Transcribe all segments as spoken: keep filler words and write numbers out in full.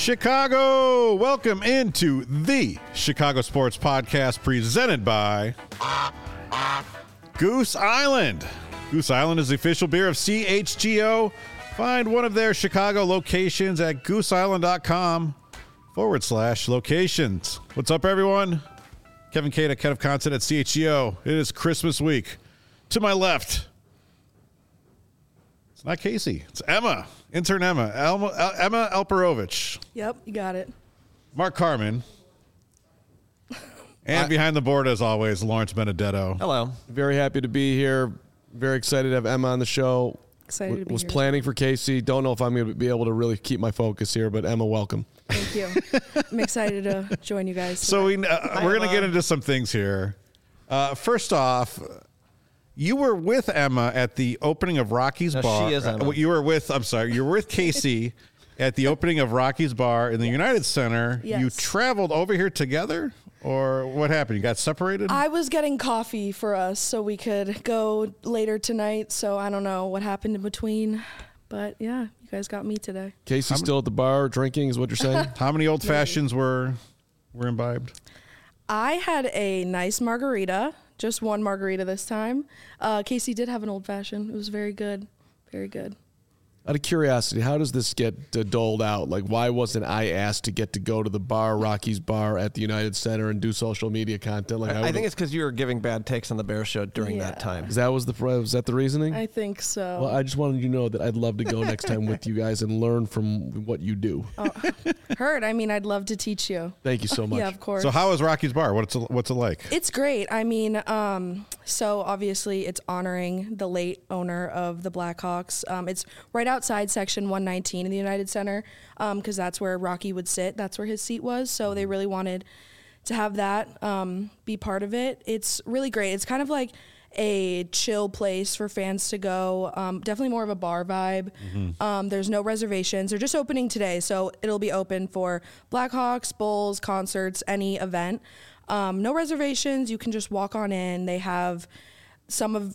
Chicago, welcome into the Chicago Sports Podcast presented by Goose Island. Goose Island is the official beer of C H G O. Find one of their Chicago locations at gooseisland.com forward slash locations. What's up, everyone? Kevin Cada, Ken of Content at C H G O. It is Christmas week. To my left, it's not Casey. It's Emma. Intern Emma. Elma, El, Emma Alperovich. Yep, you got it. Mark Carmen. And I, behind the board, as always, Lawrence Benedetto. Hello. Very happy to be here. Very excited to have Emma on the show. Excited w- to be was here. planning for Casey. Don't know if I'm going to be able to really keep my focus here, but Emma, welcome. Thank you. I'm excited to join you guys. So we, uh, Hi, we're going to Emma. get into some things here. Uh, first off, you were with Emma at the opening of Rocky's No, Bar. she is Emma. Uh, you were with, I'm sorry, you were with Casey at the opening of Rocky's Bar in the United Center. Yes. You traveled over here together, or what happened? You got separated? I was getting coffee for us so we could go later tonight. So I don't know what happened in between. But yeah, you guys got me today. Casey's still at the bar drinking is what you're saying? How many old fashions were were imbibed? I had a nice margarita, just one margarita this time. Uh, Casey did have an old fashioned. It was very good. Very good. Out of curiosity, how does this get uh, doled out? Like, why wasn't I asked to get to go to the bar, Rocky's Bar at the United Center, and do social media content? Like, I, I would've- think it's because you were giving bad takes on the Bear Show during Yeah. that time. Is that was the was that the reasoning? I think so. Well, I just wanted you to know that I'd love to go next time with you guys and learn from what you do. oh, heard. I mean, I'd love to teach you. Thank you so much. Yeah, of course. So how is Rocky's Bar? What's it, what's it like? It's great. I mean, um, so obviously it's honoring the late owner of the Blackhawks. Um, it's right outside section one nineteen in the United Center because that's where Rocky would sit. That's where his seat was. So they really wanted to have that um, be part of it. It's really great. It's kind of like a chill place for fans to go. Um, definitely more of a bar vibe. Mm-hmm. Um, there's no reservations. They're just opening today. So it'll be open for Blackhawks, Bulls, concerts, any event. Um, no reservations. You can just walk on in. They have some of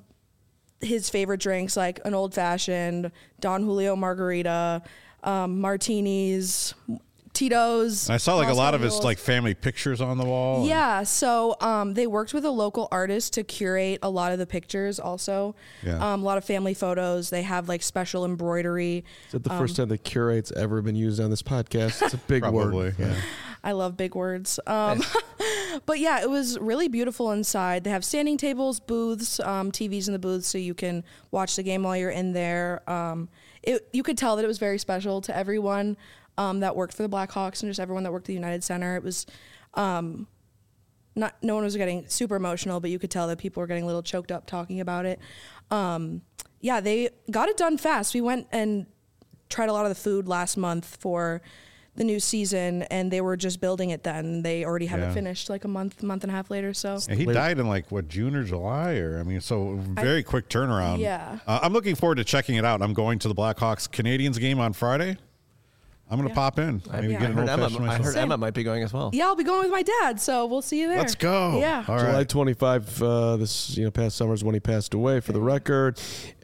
his favorite drinks, like an old fashioned, Don Julio margarita, um, martinis, Tito's. I saw like a Los lot of his Angeles. like family pictures on the wall. Yeah, so um, they worked with a local artist to curate a lot of the pictures also. Yeah. Um, a lot of family photos. They have like special embroidery. Is that the first time that curate's ever been used on this podcast? It's a big Probably, word. yeah. I love big words. Um, but yeah, it was really beautiful inside. They have standing tables, booths, um, T Vs in the booths so you can watch the game while you're in there. Um, it, you could tell that it was very special to everyone um, that worked for the Blackhawks and just everyone that worked at the United Center. It was um, not, no one was getting super emotional, but you could tell that people were getting a little choked up talking about it. Um, yeah, they got it done fast. We went and tried a lot of the food last month for the new season, and they were just building it then. They already have Yeah. it finished like a month, month and a half later. So And he Late- died in like what, June or July, or I mean, so very quick turnaround. Yeah. uh, I'm looking forward to checking it out. I'm going to the Blackhawks Canadians game on Friday. I'm going to Yeah. pop in. I, Maybe Yeah. get I an heard, old Emma, fashioned I myself. heard Emma might be going as well. yeah, I'll be going with my dad. So we'll see you there. Let's go. Yeah. All July right. twenty-fifth, uh, this you know past summer is when he passed away. For the record,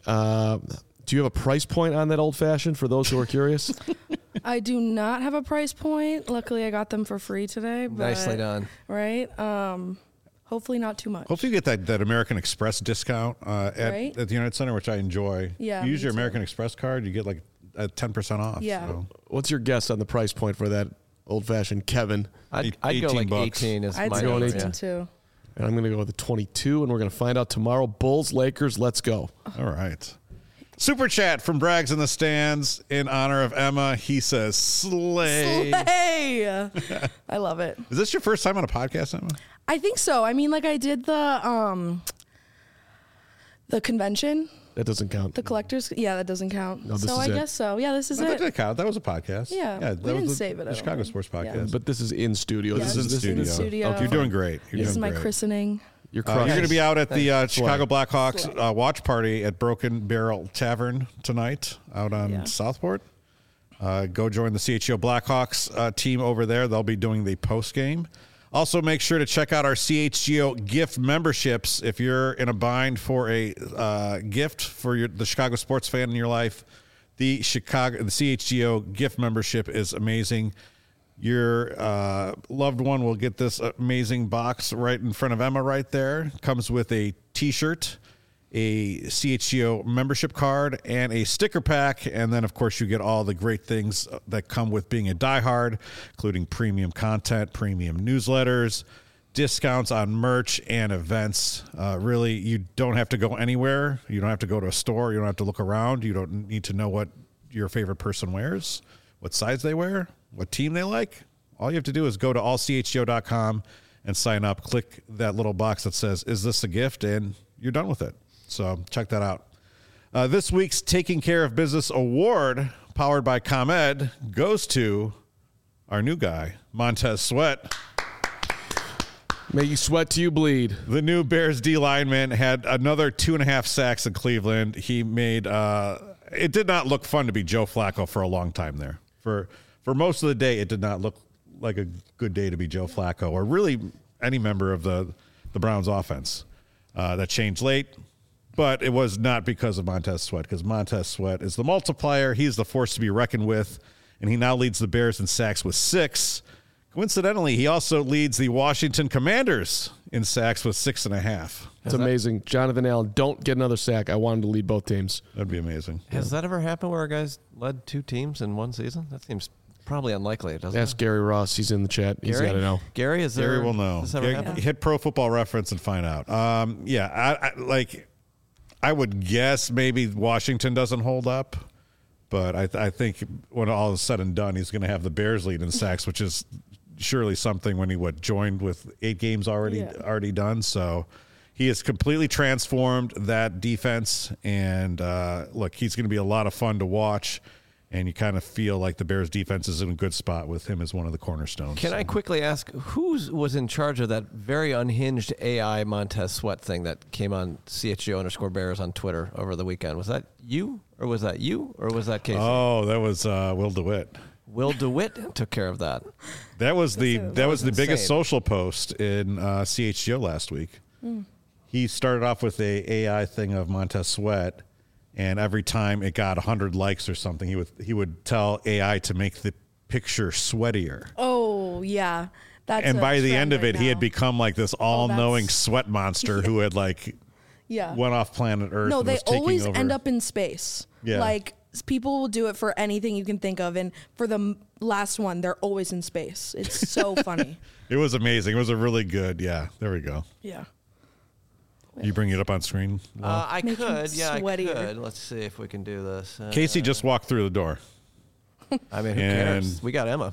uh, do you have a price point on that old fashioned for those who are curious? I do not have a price point. Luckily, I got them for free today. But, Nicely done. Right. Um, hopefully not too much. Hopefully you get that, that American Express discount uh, at, Right. at the United Center, which I enjoy. Yeah, You use me your too. American Express card, you get like a ten percent off. Yeah. So. What's your guess on the price point for that old fashioned Kevin? I'd, Eight- I'd go eighteen like bucks. eighteen is I'd my say going number. eighteen. eighteen Yeah. too. And I'm going to go with the twenty-two, and we're going to find out tomorrow. Bulls, Lakers, let's go. All right. Super chat from Brags in the Stands in honor of Emma. He says, slay. Slay! I love it. Is this your first time on a podcast, Emma? I think so. I mean, like I did the um, the convention, That doesn't count. the collectors. Yeah, that doesn't count. No, this so is I it. guess so. Yeah, this is Oh, that it. didn't count. That was a podcast. Yeah, we that didn't was the, save it, The I Chicago don't Sports think. Yeah. Podcast. But this is in studio. Yeah, this is in this studio. is in studio. You're doing great. You're This is doing my great. christening. You're Uh, crushing. you're going to be out at the uh, Slay. Chicago Blackhawks Slay. uh, watch party at Broken Barrel Tavern tonight out on Yeah. Southport. Uh, go join the C H G O Blackhawks uh, team over there. They'll be doing the post game. Also, make sure to check out our C H G O gift memberships. If you're in a bind for a uh, gift for your, the Chicago sports fan in your life, the Chicago the C H G O gift membership is amazing. Your uh, loved one will get this amazing box right in front of Emma right there. Comes with a T-shirt, a C H G O membership card, and a sticker pack. And then, of course, you get all the great things that come with being a diehard, including premium content, premium newsletters, discounts on merch and events. Uh, really, you don't have to go anywhere. You don't have to go to a store. You don't have to look around. You don't need to know what your favorite person wears, what size they wear, what team they like. All you have to do is go to all c h g o dot com and sign up. Click that little box that says, is this a gift? And you're done with it. So check that out. Uh, this week's Taking Care of Business Award, powered by ComEd, goes to our new guy, Montez Sweat. May you sweat till you bleed. The new Bears D lineman had another two and a half sacks in Cleveland. He made uh, it did not look fun to be Joe Flacco for a long time there. For for most of the day, it did not look like a good day to be Joe Flacco or really any member of the the Browns offense. Uh, that changed late, but it was not because of Montez Sweat, because Montez Sweat is the multiplier. He's the force to be reckoned with, and he now leads the Bears in sacks with six. Coincidentally, he also leads the Washington Commanders in sacks with six and a half. It's amazing. Jonathan Allen, don't get another sack. I want him to lead both teams. That'd be amazing. Has that ever happened where a guy's led two teams in one season? That seems probably unlikely, doesn't Ask it? Gary Ross. He's in the chat. He's Gary? got to know. Gary, is there? Gary will know. Has this ever Gary- happened? Hit Pro Football Reference and find out. Um, yeah, I, I, like I would guess maybe Washington doesn't hold up, but I, I think when all is said and done, he's going to have the Bears lead in sacks, which is surely something when he what joined with eight games already Yeah. already done. So he has completely transformed that defense, and uh, look, he's going to be a lot of fun to watch. And you kind of feel like the Bears defense is in a good spot with him as one of the cornerstones. Can I quickly ask, who was in charge of that very unhinged A I Montez Sweat thing that came on C H G O underscore Bears on Twitter over the weekend? Was that you, or was that you, or was that Casey? Oh, that was uh, Will DeWitt. Will DeWitt took care of that. That was the That that was was the biggest insane. social post in uh, C H G O last week. He started off with a AI thing of Montez Sweat, and every time it got one hundred likes or something, he would he would tell A I to make the picture sweatier. Oh yeah, that's And a by the trend end of right it, he had now. become like this all-knowing that's- sweat monster who had like yeah. went off planet Earth. No, and they was taking always over. end up in space. Yeah. Like s- people will do it for anything you can think of, and for the m- last one, they're always in space. It's so funny. It was amazing. It was a really good. Yeah, there we go. Yeah. You bring it up on screen. Uh, I Make him could, yeah, I sweatier. could. Let's see if we can do this. Uh, Casey just walked through the door. I mean, who and- cares? We got Emma.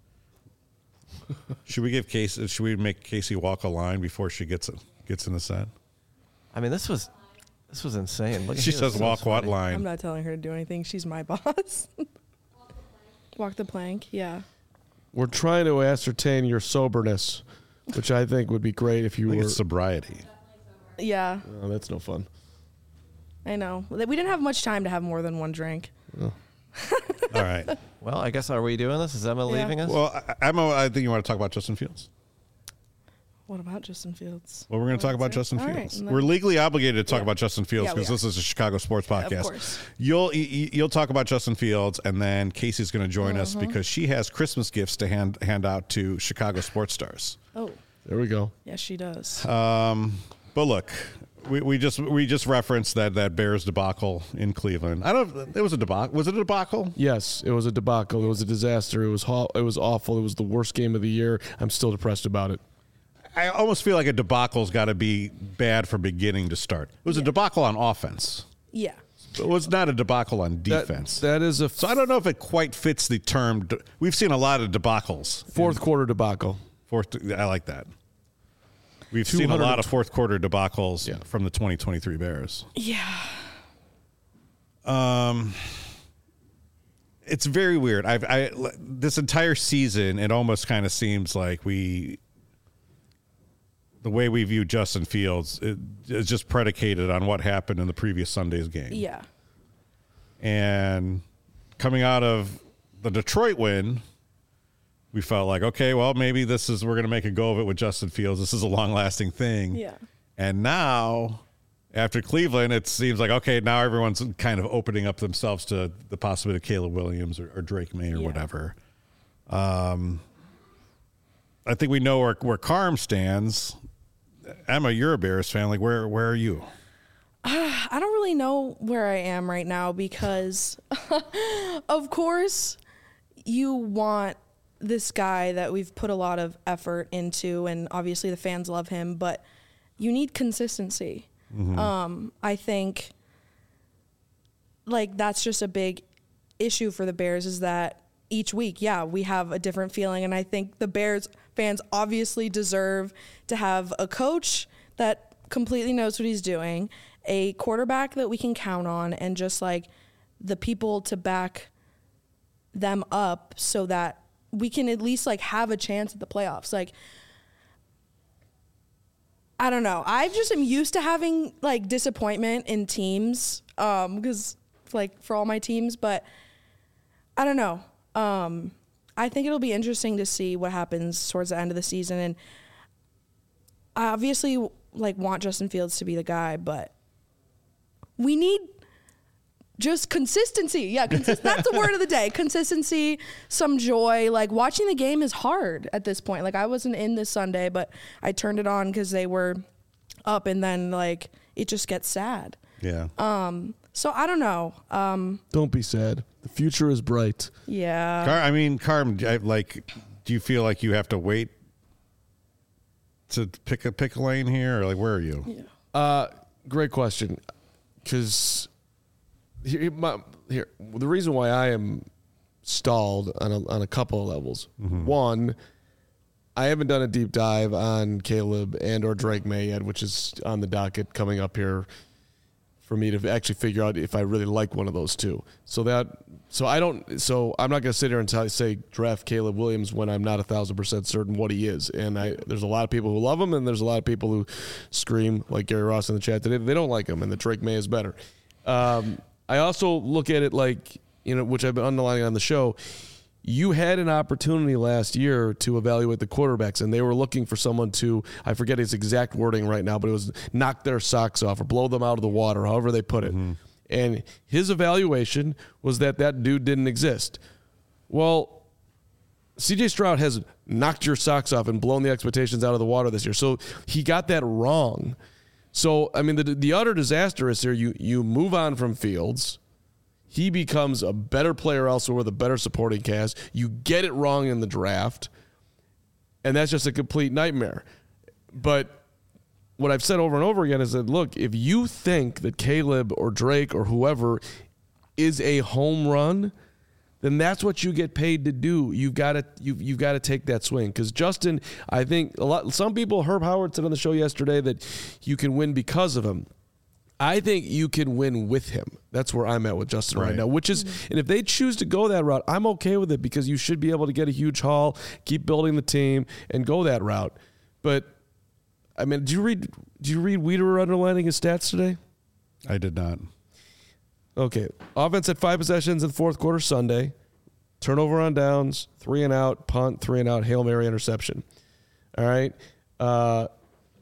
Should we give Casey? Should we make Casey walk a line before she gets gets in the set? I mean, this was this was insane. Look, She he was says so walk what sweaty. line? I'm not telling her to do anything. She's my boss. Walk the plank. Yeah. We're trying to ascertain your soberness, which I think would be great if you I think were. it's sobriety. Yeah. Oh, that's no fun. I know. We didn't have much time to have more than one drink. All right. Well, I guess are we doing this? Is Emma Yeah. leaving us? Well, I- Emma, I think you want to talk about Justin Fields. What about Justin Fields? Well, we're going to talk about Justin All right, Fields. and We're then- legally obligated to talk Yeah. about Justin Fields Yeah, we because this is a Chicago sports podcast. course. You'll y- y- you'll talk about Justin Fields, and then Casey's going to join us Uh-huh. because she has Christmas gifts to hand hand out to Chicago sports stars. Oh, There we go. yes, she does. Um, but look, we, we just we just referenced that that Bears debacle in Cleveland. I don't. It was a debacle. Was it a debacle? Yes, it was a debacle. It was a disaster. It was ho- it was awful. It was the worst game of the year. I'm still depressed about it. I almost feel like a debacle's got to be bad from beginning to start. It was a debacle on offense. Yeah. It was not a debacle on That- defense. that is a f- so I don't know if it quite fits the term. de- We've seen a lot of debacles. fourth quarter debacle. Fourth, I like that. We've seen a two hundred lot of fourth quarter debacles Yeah. from the twenty twenty-three Bears. Yeah. Um, it's very weird. I've I this entire season, it almost kind of seems like we, the way we view Justin Fields, it, is just predicated on what happened in the previous Sunday's game. Yeah. And coming out of the Detroit win, we felt like, okay, well, maybe this is, we're going to make a go of it with Justin Fields. This is a long lasting thing. Yeah. And now, after Cleveland, it seems like, okay, now everyone's kind of opening up themselves to the possibility of Caleb Williams or, or Drake May or Yeah. whatever. Um, I think we know where where Carm stands. Emma, you're a Bears fan. Like, where where are you? Uh, I don't really know where I am right now because, of course, you want this guy that we've put a lot of effort into, and obviously the fans love him, but you need consistency. Mm-hmm. Um, I think, like, that's just a big issue for the Bears is that each week, yeah, we have a different feeling, and I think the Bears fans obviously deserve to have a coach that completely knows what he's doing, a quarterback that we can count on, and just like the people to back them up so that we can at least like have a chance at the playoffs. Like, I don't know. I just am used to having like disappointment in teams um, because like for all my teams, but I don't know. Um, I think it'll be interesting to see what happens towards the end of the season. And I obviously like want Justin Fields to be the guy, but we need just consistency. Yeah, consist- that's the word of the day. Consistency, some joy. Like, watching the game is hard at this point. Like, I wasn't in this Sunday, but I turned it on because they were up, and then, like, it just gets sad. Yeah. Um. So, I don't know. Um. Don't be sad. The future is bright. Yeah. Car- I mean, Carm, I- like, do you feel like you have to wait to pick a pick a lane here, or, like, where are you? Yeah. Uh, great question. Because here, my, here, the reason why I am stalled on a, on a couple of levels. Mm-hmm. One, I haven't done a deep dive on Caleb and or Drake May yet, which is on the docket coming up here for me to actually figure out if I really like one of those two. So that, so I don't, so I'm not going to sit here and tell, say draft Caleb Williams when I'm not a thousand percent certain what he is. And I, there's a lot of people who love him, and there's a lot of people who scream like Gary Ross in the chat today. They don't like him, and the Drake May is better. Um, I also look at it like, you know, which I've been underlining on the show. You had an opportunity last year to evaluate the quarterbacks, and they were looking for someone to, I forget his exact wording right now, but it was knock their socks off or blow them out of the water, however they put it. Mm-hmm. And his evaluation was that that dude didn't exist. Well, C J Stroud has knocked your socks off and blown the expectations out of the water this year. So he got that wrong. So, I mean, the the utter disaster is here. You, you move on from Fields. He becomes a better player elsewhere with a better supporting cast. You get it wrong in the draft, and that's just a complete nightmare. But what I've said over and over again is that, look, if you think that Caleb or Drake or whoever is a home run, then that's what you get paid to do. You've got to you've, you've got to take that swing. Because Justin, I think a lot. Some people, Herb Howard said on the show yesterday that you can win because of him. I think you can win with him. That's where I'm at with Justin right, right now, which is, mm-hmm. and if they choose to go that route, I'm okay with it because you should be able to get a huge haul, keep building the team, and go that route. But, I mean, did you read, did you read Wiederer underlining his stats today? I did not. Okay. Offense at five possessions in the fourth quarter Sunday. Turnover on downs, three and out, punt, three and out, Hail Mary interception. All right. Uh,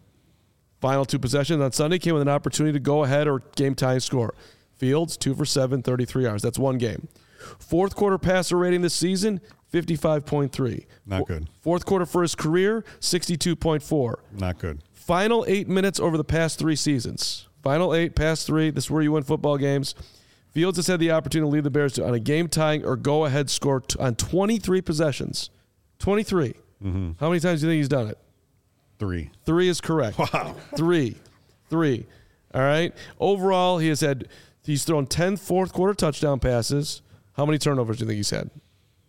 Final two possessions on Sunday came with an opportunity to go ahead or game-tying score. Fields, two for seven, thirty-three yards. That's one game. Fourth quarter passer rating this season, fifty-five point three. Not good. Fourth quarter for his career, sixty-two point four. Not good. Final eight minutes over the past three seasons. Final eight, past three. This is where you win football games. Fields has had the opportunity to lead the Bears to, on a game-tying or go-ahead score t- on twenty-three possessions. twenty-three. Mm-hmm. How many times do you think he's done it? Three. Three is correct. Wow. Three. Three. All right. Overall, he has had, he's thrown ten fourth quarter touchdown passes. How many turnovers do you think he's had?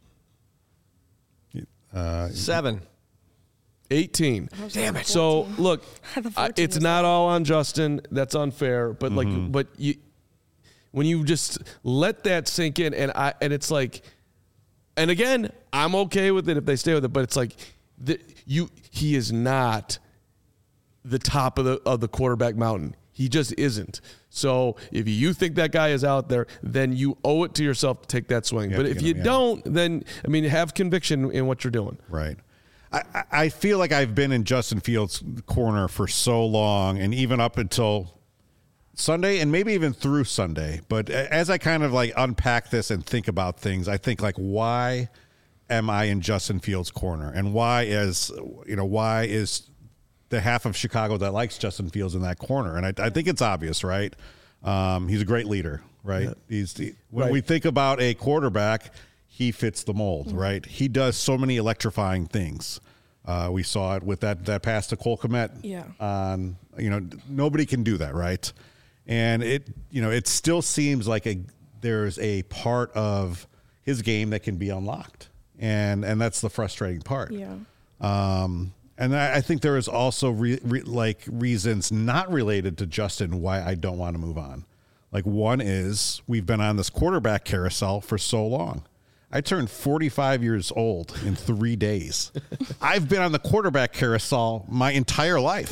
Uh, Seven. eighteen. Damn it. So, look, I, it's not all on Justin. That's unfair. But, like, mm-hmm. but you, when you just let that sink in, and I, and it's like, and again, I'm okay with it if they stay with it, but it's like, the, you, he is not the top of the of the quarterback mountain. He just isn't. So if you think that guy is out there, then you owe it to yourself to take that swing. You but if you him, don't, yeah. then, I mean, have conviction in what you're doing. Right. I, I feel like I've been in Justin Fields' corner for so long, and even up until Sunday, and maybe even through Sunday. But as I kind of like unpack this and think about things, I think like, why am I in Justin Fields' corner, and why is you know why is the half of Chicago that likes Justin Fields in that corner? And I, I think it's obvious, right? Um, he's a great leader, right? Yeah. He's the, when right. we think about a quarterback, he fits the mold, mm-hmm. right? He does so many electrifying things. Uh, we saw it with that that pass to Cole Kmet. Yeah. On you know nobody can do that, right? And it you know it still seems like a there's a part of his game that can be unlocked, and and that's the frustrating part. Yeah. Um, and I, I think there is also re, re, like reasons not related to Justin why I don't want to move on. Like one is we've been on this quarterback carousel for so long. I turned forty-five years old in three days. I've been on the quarterback carousel my entire life.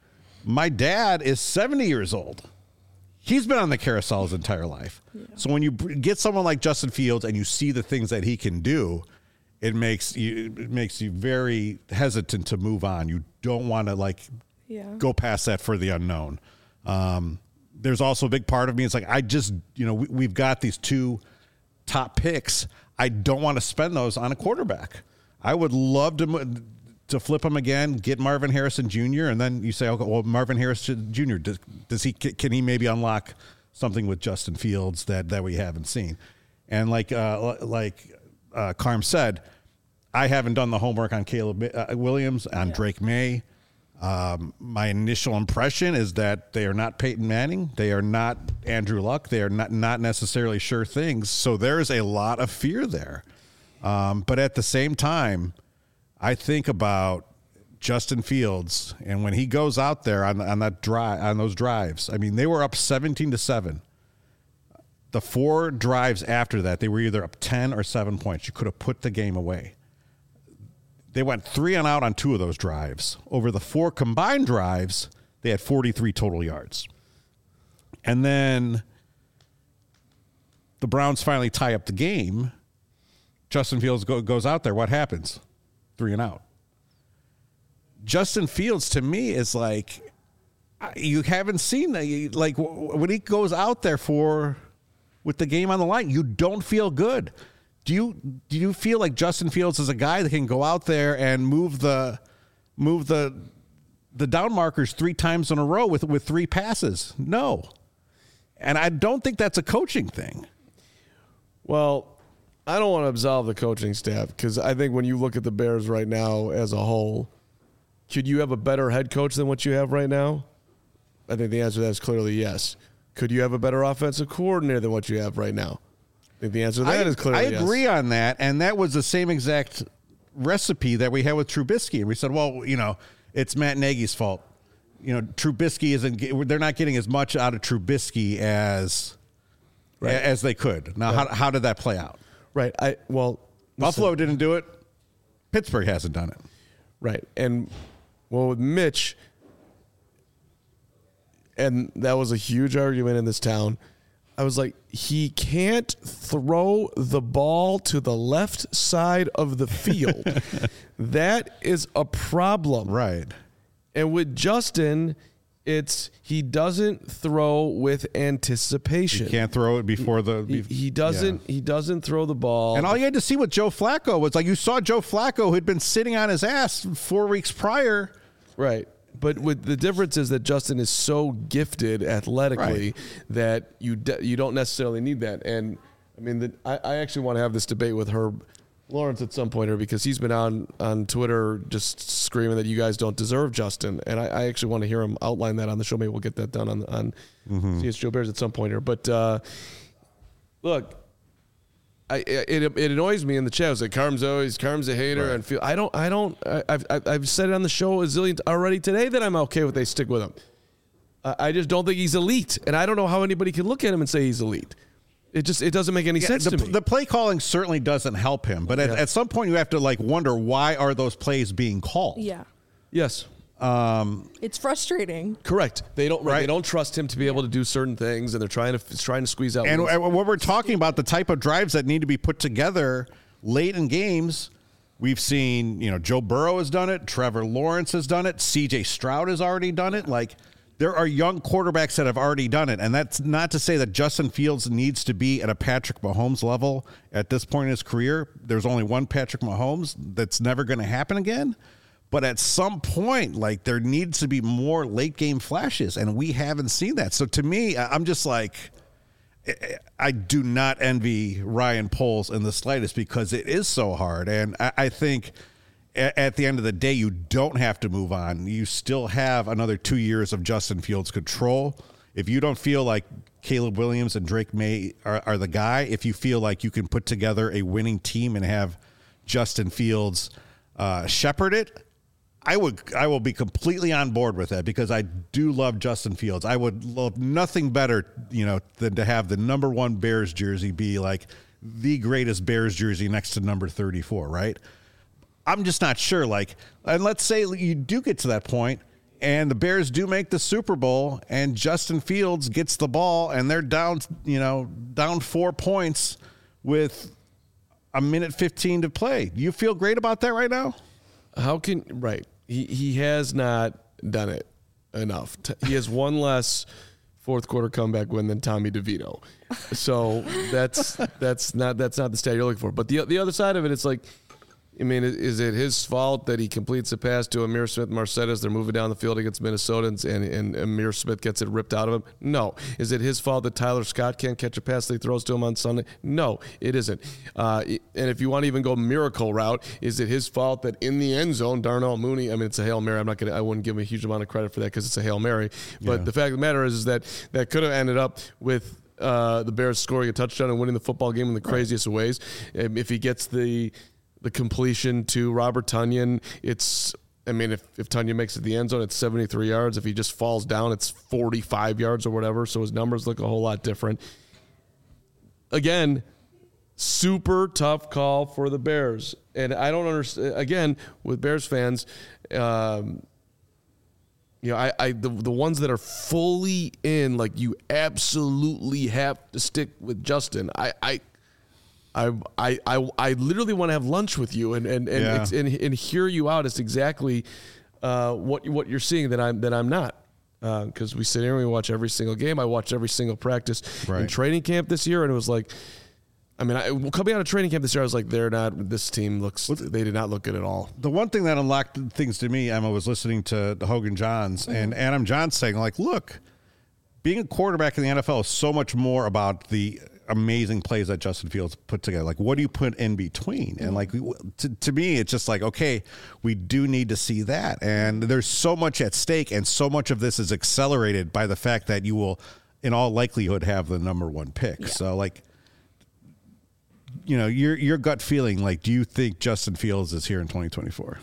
My dad is seventy years old. He's been on the carousel his entire life. Yeah. So when you get someone like Justin Fields and you see the things that he can do, it makes you it makes you very hesitant to move on. You don't want to like yeah. go past that for the unknown. Um, there's also a big part of me. It's like I just you know we, we've got these two top picks. I don't want to spend those on a quarterback. I would love to to flip him again, get Marvin Harrison Junior, and then you say, okay, well, Marvin Harrison Junior, does, does he can he maybe unlock something with Justin Fields that, that we haven't seen? And like uh, like uh, Carm said, I haven't done the homework on Caleb uh, Williams, on yeah. Drake May. Um, my initial impression is that they are not Peyton Manning. They are not Andrew Luck. They are not, not necessarily sure things. So there's a lot of fear there. Um, but at the same time, I think about Justin Fields, and when he goes out there on, on that drive, on those drives, I mean, they were up seventeen to seven. The four drives after that, they were either up ten or seven points. You could have put the game away. They went three and out on two of those drives. Over the four combined drives, they had forty-three total yards. And then the Browns finally tie up the game. Justin Fields go, goes out there. What happens? Three and out. Justin Fields, to me, is like, you haven't seen that. Like, when he goes out there for, with the game on the line, you don't feel good. Do you do you feel like Justin Fields is a guy that can go out there and move the move the the down markers three times in a row with, with three passes? No. And I don't think that's a coaching thing. Well, I don't want to absolve the coaching staff because I think when you look at the Bears right now as a whole, could you have a better head coach than what you have right now? I think the answer to that is clearly yes. Could you have a better offensive coordinator than what you have right now? I think the answer to that I, is clearly I yes. agree on that, and that was the same exact recipe that we had with Trubisky. And we said, well, you know, it's Matt Nagy's fault. You know, Trubisky isn't. They're not getting as much out of Trubisky as right. as they could. Now, right. how how did that play out? Right. I well, Buffalo listen. didn't do it. Pittsburgh hasn't done it. Right. And well, with Mitch, and that was a huge argument in this town. I was like, he can't throw the ball to the left side of the field. That is a problem. Right. And with Justin, it's he doesn't throw with anticipation. He can't throw it before the he, he doesn't yeah. he doesn't throw the ball. And all you had to see with Joe Flacco was like you saw Joe Flacco who'd been sitting on his ass four weeks prior. Right. But with the difference is that Justin is so gifted athletically right. that you de- you don't necessarily need that. And I mean, the, I, I actually want to have this debate with Herb Lawrence at some point here because he's been on, on Twitter just screaming that you guys don't deserve Justin. And I, I actually want to hear him outline that on the show. Maybe we'll get that done on on mm-hmm. C H Joe Bears at some point here. But uh, look. I, it it annoys me in the chat. I was like, Carm's always Carm's a hater, right. and feel I don't I don't I, I've I've said it on the show a zillion already today that I'm okay with they stick with him. Uh, I just don't think he's elite, and I don't know how anybody can look at him and say he's elite. It just it doesn't make any yeah, sense the, to me. The play calling certainly doesn't help him, but at, yeah. at some point you have to like wonder why are those plays being called? Yeah. Yes. Um, it's frustrating. Correct. They don't. Right. They don't trust him to be able to do certain things, and they're trying to trying to squeeze out. And wins. What we're talking about, the type of drives that need to be put together late in games, we've seen. You know, Joe Burrow has done it. Trevor Lawrence has done it. C J Stroud has already done it. Like there are young quarterbacks that have already done it. And that's not to say that Justin Fields needs to be at a Patrick Mahomes level at this point in his career. There's only one Patrick Mahomes. That's never going to happen again. But at some point, like, there needs to be more late game flashes, and we haven't seen that. So to me, I'm just like, I do not envy Ryan Poles in the slightest because it is so hard. And I, I think at the end of the day, you don't have to move on. You still have another two years of Justin Fields control. If you don't feel like Caleb Williams and Drake May are, are the guy, if you feel like you can put together a winning team and have Justin Fields uh, shepherd it, I would, I will be completely on board with that because I do love Justin Fields. I would love nothing better, you know, than to have the number one Bears jersey be like the greatest Bears jersey next to number thirty-four, right? I'm just not sure. Like, and let's say you do get to that point and the Bears do make the Super Bowl and Justin Fields gets the ball and they're down, you know, down four points with a minute fifteen to play. Do you feel great about that right now? How can, right. He, he has not done it enough. He has one less fourth quarter comeback win than Tommy DeVito. So that's, that's not, that's not the stat you're looking for. But the, the other side of it, it's like, I mean, is it his fault that he completes a pass to Amir Smith-Marset? They're moving down the field against Minnesotans, and, and Amir Smith gets it ripped out of him? No. Is it his fault that Tyler Scott can't catch a pass that he throws to him on Sunday? No, it isn't. Uh, and if you want to even go miracle route, is it his fault that in the end zone, Darnell Mooney, I mean, it's a Hail Mary. I'm not going to, I wouldn't give him a huge amount of credit for that because it's a Hail Mary. But yeah. The fact of the matter is, is that that could have ended up with uh, the Bears scoring a touchdown and winning the football game in the craziest of ways. If he gets the... the completion to Robert Tonyan, it's, I mean, if, if Tonyan makes it the end zone, it's seventy-three yards. If he just falls down, it's forty-five yards or whatever. So his numbers look a whole lot different. Again, super tough call for the Bears. And I don't understand, again, with Bears fans, um, you know, I, I the, the ones that are fully in, like, you absolutely have to stick with Justin. I, I, I, I, I, I literally want to have lunch with you and and and, Yeah. and, and hear you out as exactly uh, what what you're seeing that I'm that I'm not, because uh, we sit here and we watch every single game. I watched every single practice Right. in training camp this year, and it was like, I mean, I, coming out of training camp this year, I was like, they're not. This team looks. They did not look good at all. The one thing that unlocked things to me, Emma, was listening to the Hogan Johns and Adam Johns saying, like, look, being a quarterback in the N F L is so much more about the amazing plays that Justin Fields put together. Like, what do you put in between? And like, to, to me, it's just like, okay, we do need to see that. And there's so much at stake, and so much of this is accelerated by the fact that you will, in all likelihood, have the number one pick. Yeah. So, like, you know, your your gut feeling, like, do you think Justin Fields is here in twenty twenty-four?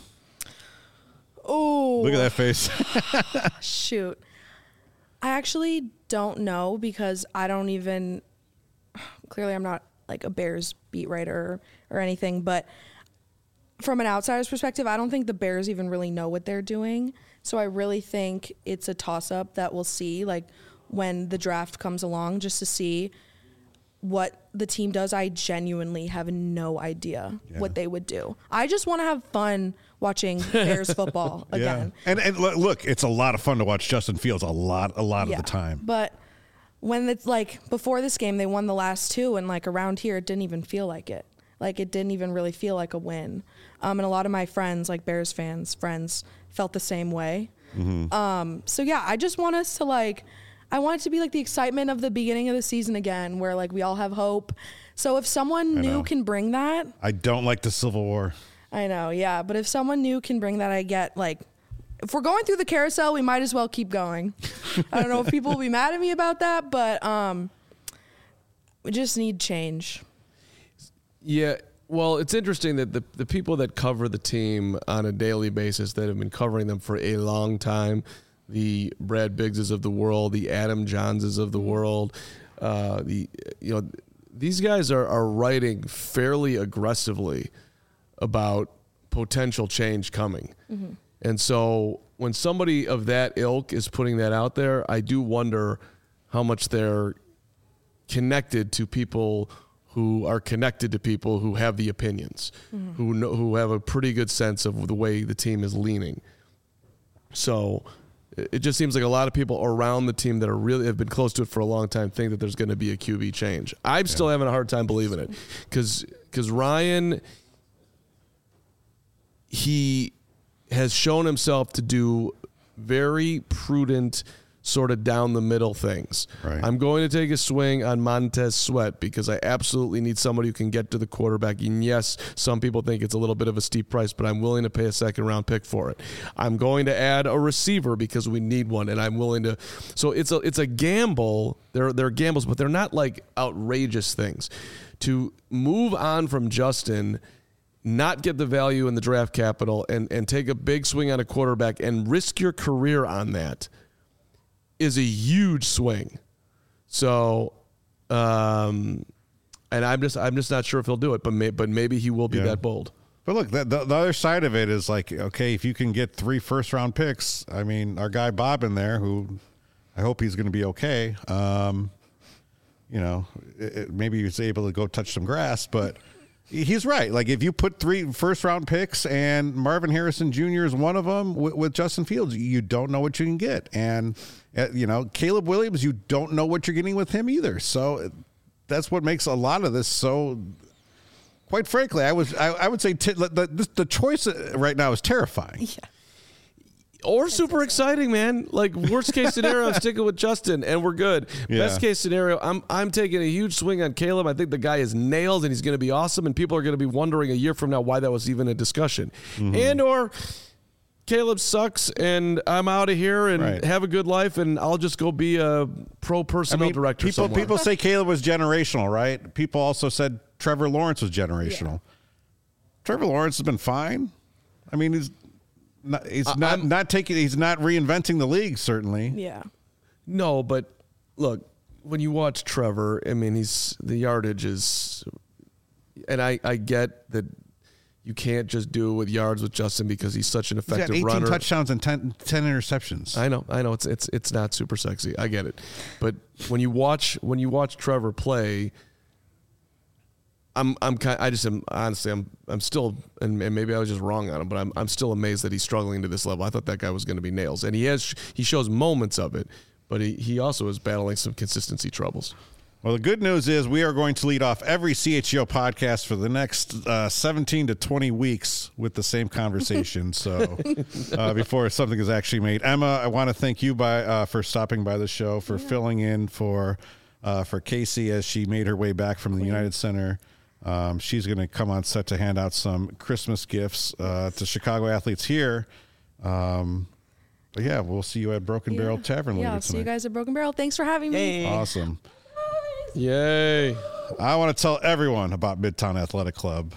Oh, Look at that face. shoot. I actually don't know because I don't even, clearly I'm not like a Bears beat writer or, or anything, but from an outsider's perspective, I don't think the Bears even really know what they're doing. So I really think it's a toss-up that we'll see, like, when the draft comes along, just to see what the team does. I genuinely have no idea Yeah. what they would do. I just want to have fun watching Bears football again. Yeah. And and look, it's a lot of fun to watch Justin Fields a lot a lot Yeah. of the time. But when it's like before this game, they won the last two, and like around here, it didn't even feel like it. Like it didn't even really feel like a win. Um, and a lot of my friends, like Bears fans, friends, felt the same way. Mm-hmm. Um, so yeah, I just want us to like, I want it to be like the excitement of the beginning of the season again, where like we all have hope. So if someone I new know. can bring that, I don't like the Civil War. I know, yeah. But if someone new can bring that, I get like, if we're going through the carousel, we might as well keep going. I don't know if people will be mad at me about that, but um, we just need change. Yeah, well, it's interesting that the the people that cover the team on a daily basis, that have been covering them for a long time, the Brad Biggses of the world, the Adam Johnses of the world, uh, the you know these guys are are writing fairly aggressively about potential change coming. Mm-hmm. And so when somebody of that ilk is putting that out there, I do wonder how much they're connected to people who are connected to people who have the opinions, mm-hmm. who know, who have a pretty good sense of the way the team is leaning. So It just seems like a lot of people around the team that are really have been close to it for a long time think that there's going to be a Q B change. I'm yeah. still having a hard time believing it because because Ryan, he has shown himself to do very prudent, sort of down the middle things. Right. I'm going to take a swing on Montez Sweat because I absolutely need somebody who can get to the quarterback. And yes, some people think it's a little bit of a steep price, but I'm willing to pay a second round pick for it. I'm going to add a receiver because we need one, and I'm willing to. So it's a it's a gamble. They're they're gambles, but they're not like outrageous things. To move on from Justin, not get the value in the draft capital, and and take a big swing on a quarterback and risk your career on that is a huge swing. So, um, and I'm just I'm just not sure if he'll do it, but may, but maybe he will be yeah. that bold. But look, the, the, the other side of it is like, okay, if you can get three first round picks, I mean, our guy Bob in there, who I hope he's going to be okay. Um, you know, it, it, maybe he's able to go touch some grass, but he's right. Like if you put three first round picks and Marvin Harrison Junior is one of them with, with Justin Fields, you don't know what you can get. And, uh, you know, Caleb Williams, you don't know what you're getting with him either. So that's what makes a lot of this so, quite frankly, I was, I, I would say t- the, the choice right now is terrifying. Yeah. Or super exciting, man. Like worst case scenario, I'm sticking with Justin, and we're good. Yeah. Best case scenario, I'm I'm taking a huge swing on Caleb. I think the guy is nailed, and he's going to be awesome. And people are going to be wondering a year from now why that was even a discussion. Mm-hmm. And or Caleb sucks, and I'm out of here, and right. have a good life, and I'll just go be a pro personnel I mean, director. People somewhere. people say Caleb was generational, right? People also said Trevor Lawrence was generational. Yeah. Trevor Lawrence has been fine. I mean, he's. Not, he's not I'm, not taking. He's not reinventing the league. Certainly. Yeah. No, but look, when you watch Trevor, I mean, he's the yardage is, and I, I get that you can't just do it with yards with Justin because he's such an effective he's got eighteen runner. touchdowns and ten, ten interceptions. I know, I know. It's it's it's not super sexy. I get it, but when you watch when you watch Trevor play. I'm I'm kind I just am honestly I'm I'm still and, and maybe I was just wrong on him, but I'm I'm still amazed that he's struggling to this level. I thought that guy was going to be nails, and he has he shows moments of it, but he, he also is battling some consistency troubles. Well, the good news is we are going to lead off every C H G O podcast for the next uh, seventeen to twenty weeks with the same conversation. So uh, before something is actually made, Emma, I want to thank you by uh, for stopping by the show for yeah. filling in for uh, for Casey as she made her way back from the United Center. Um, she's going to come on set to hand out some Christmas gifts uh, to Chicago athletes here. Um, but yeah, we'll see you at Broken yeah. Barrel Tavern yeah, later I'll tonight. See you guys at Broken Barrel. Thanks for having me. Hey. Awesome. Yay. I want to tell everyone about Midtown Athletic Club.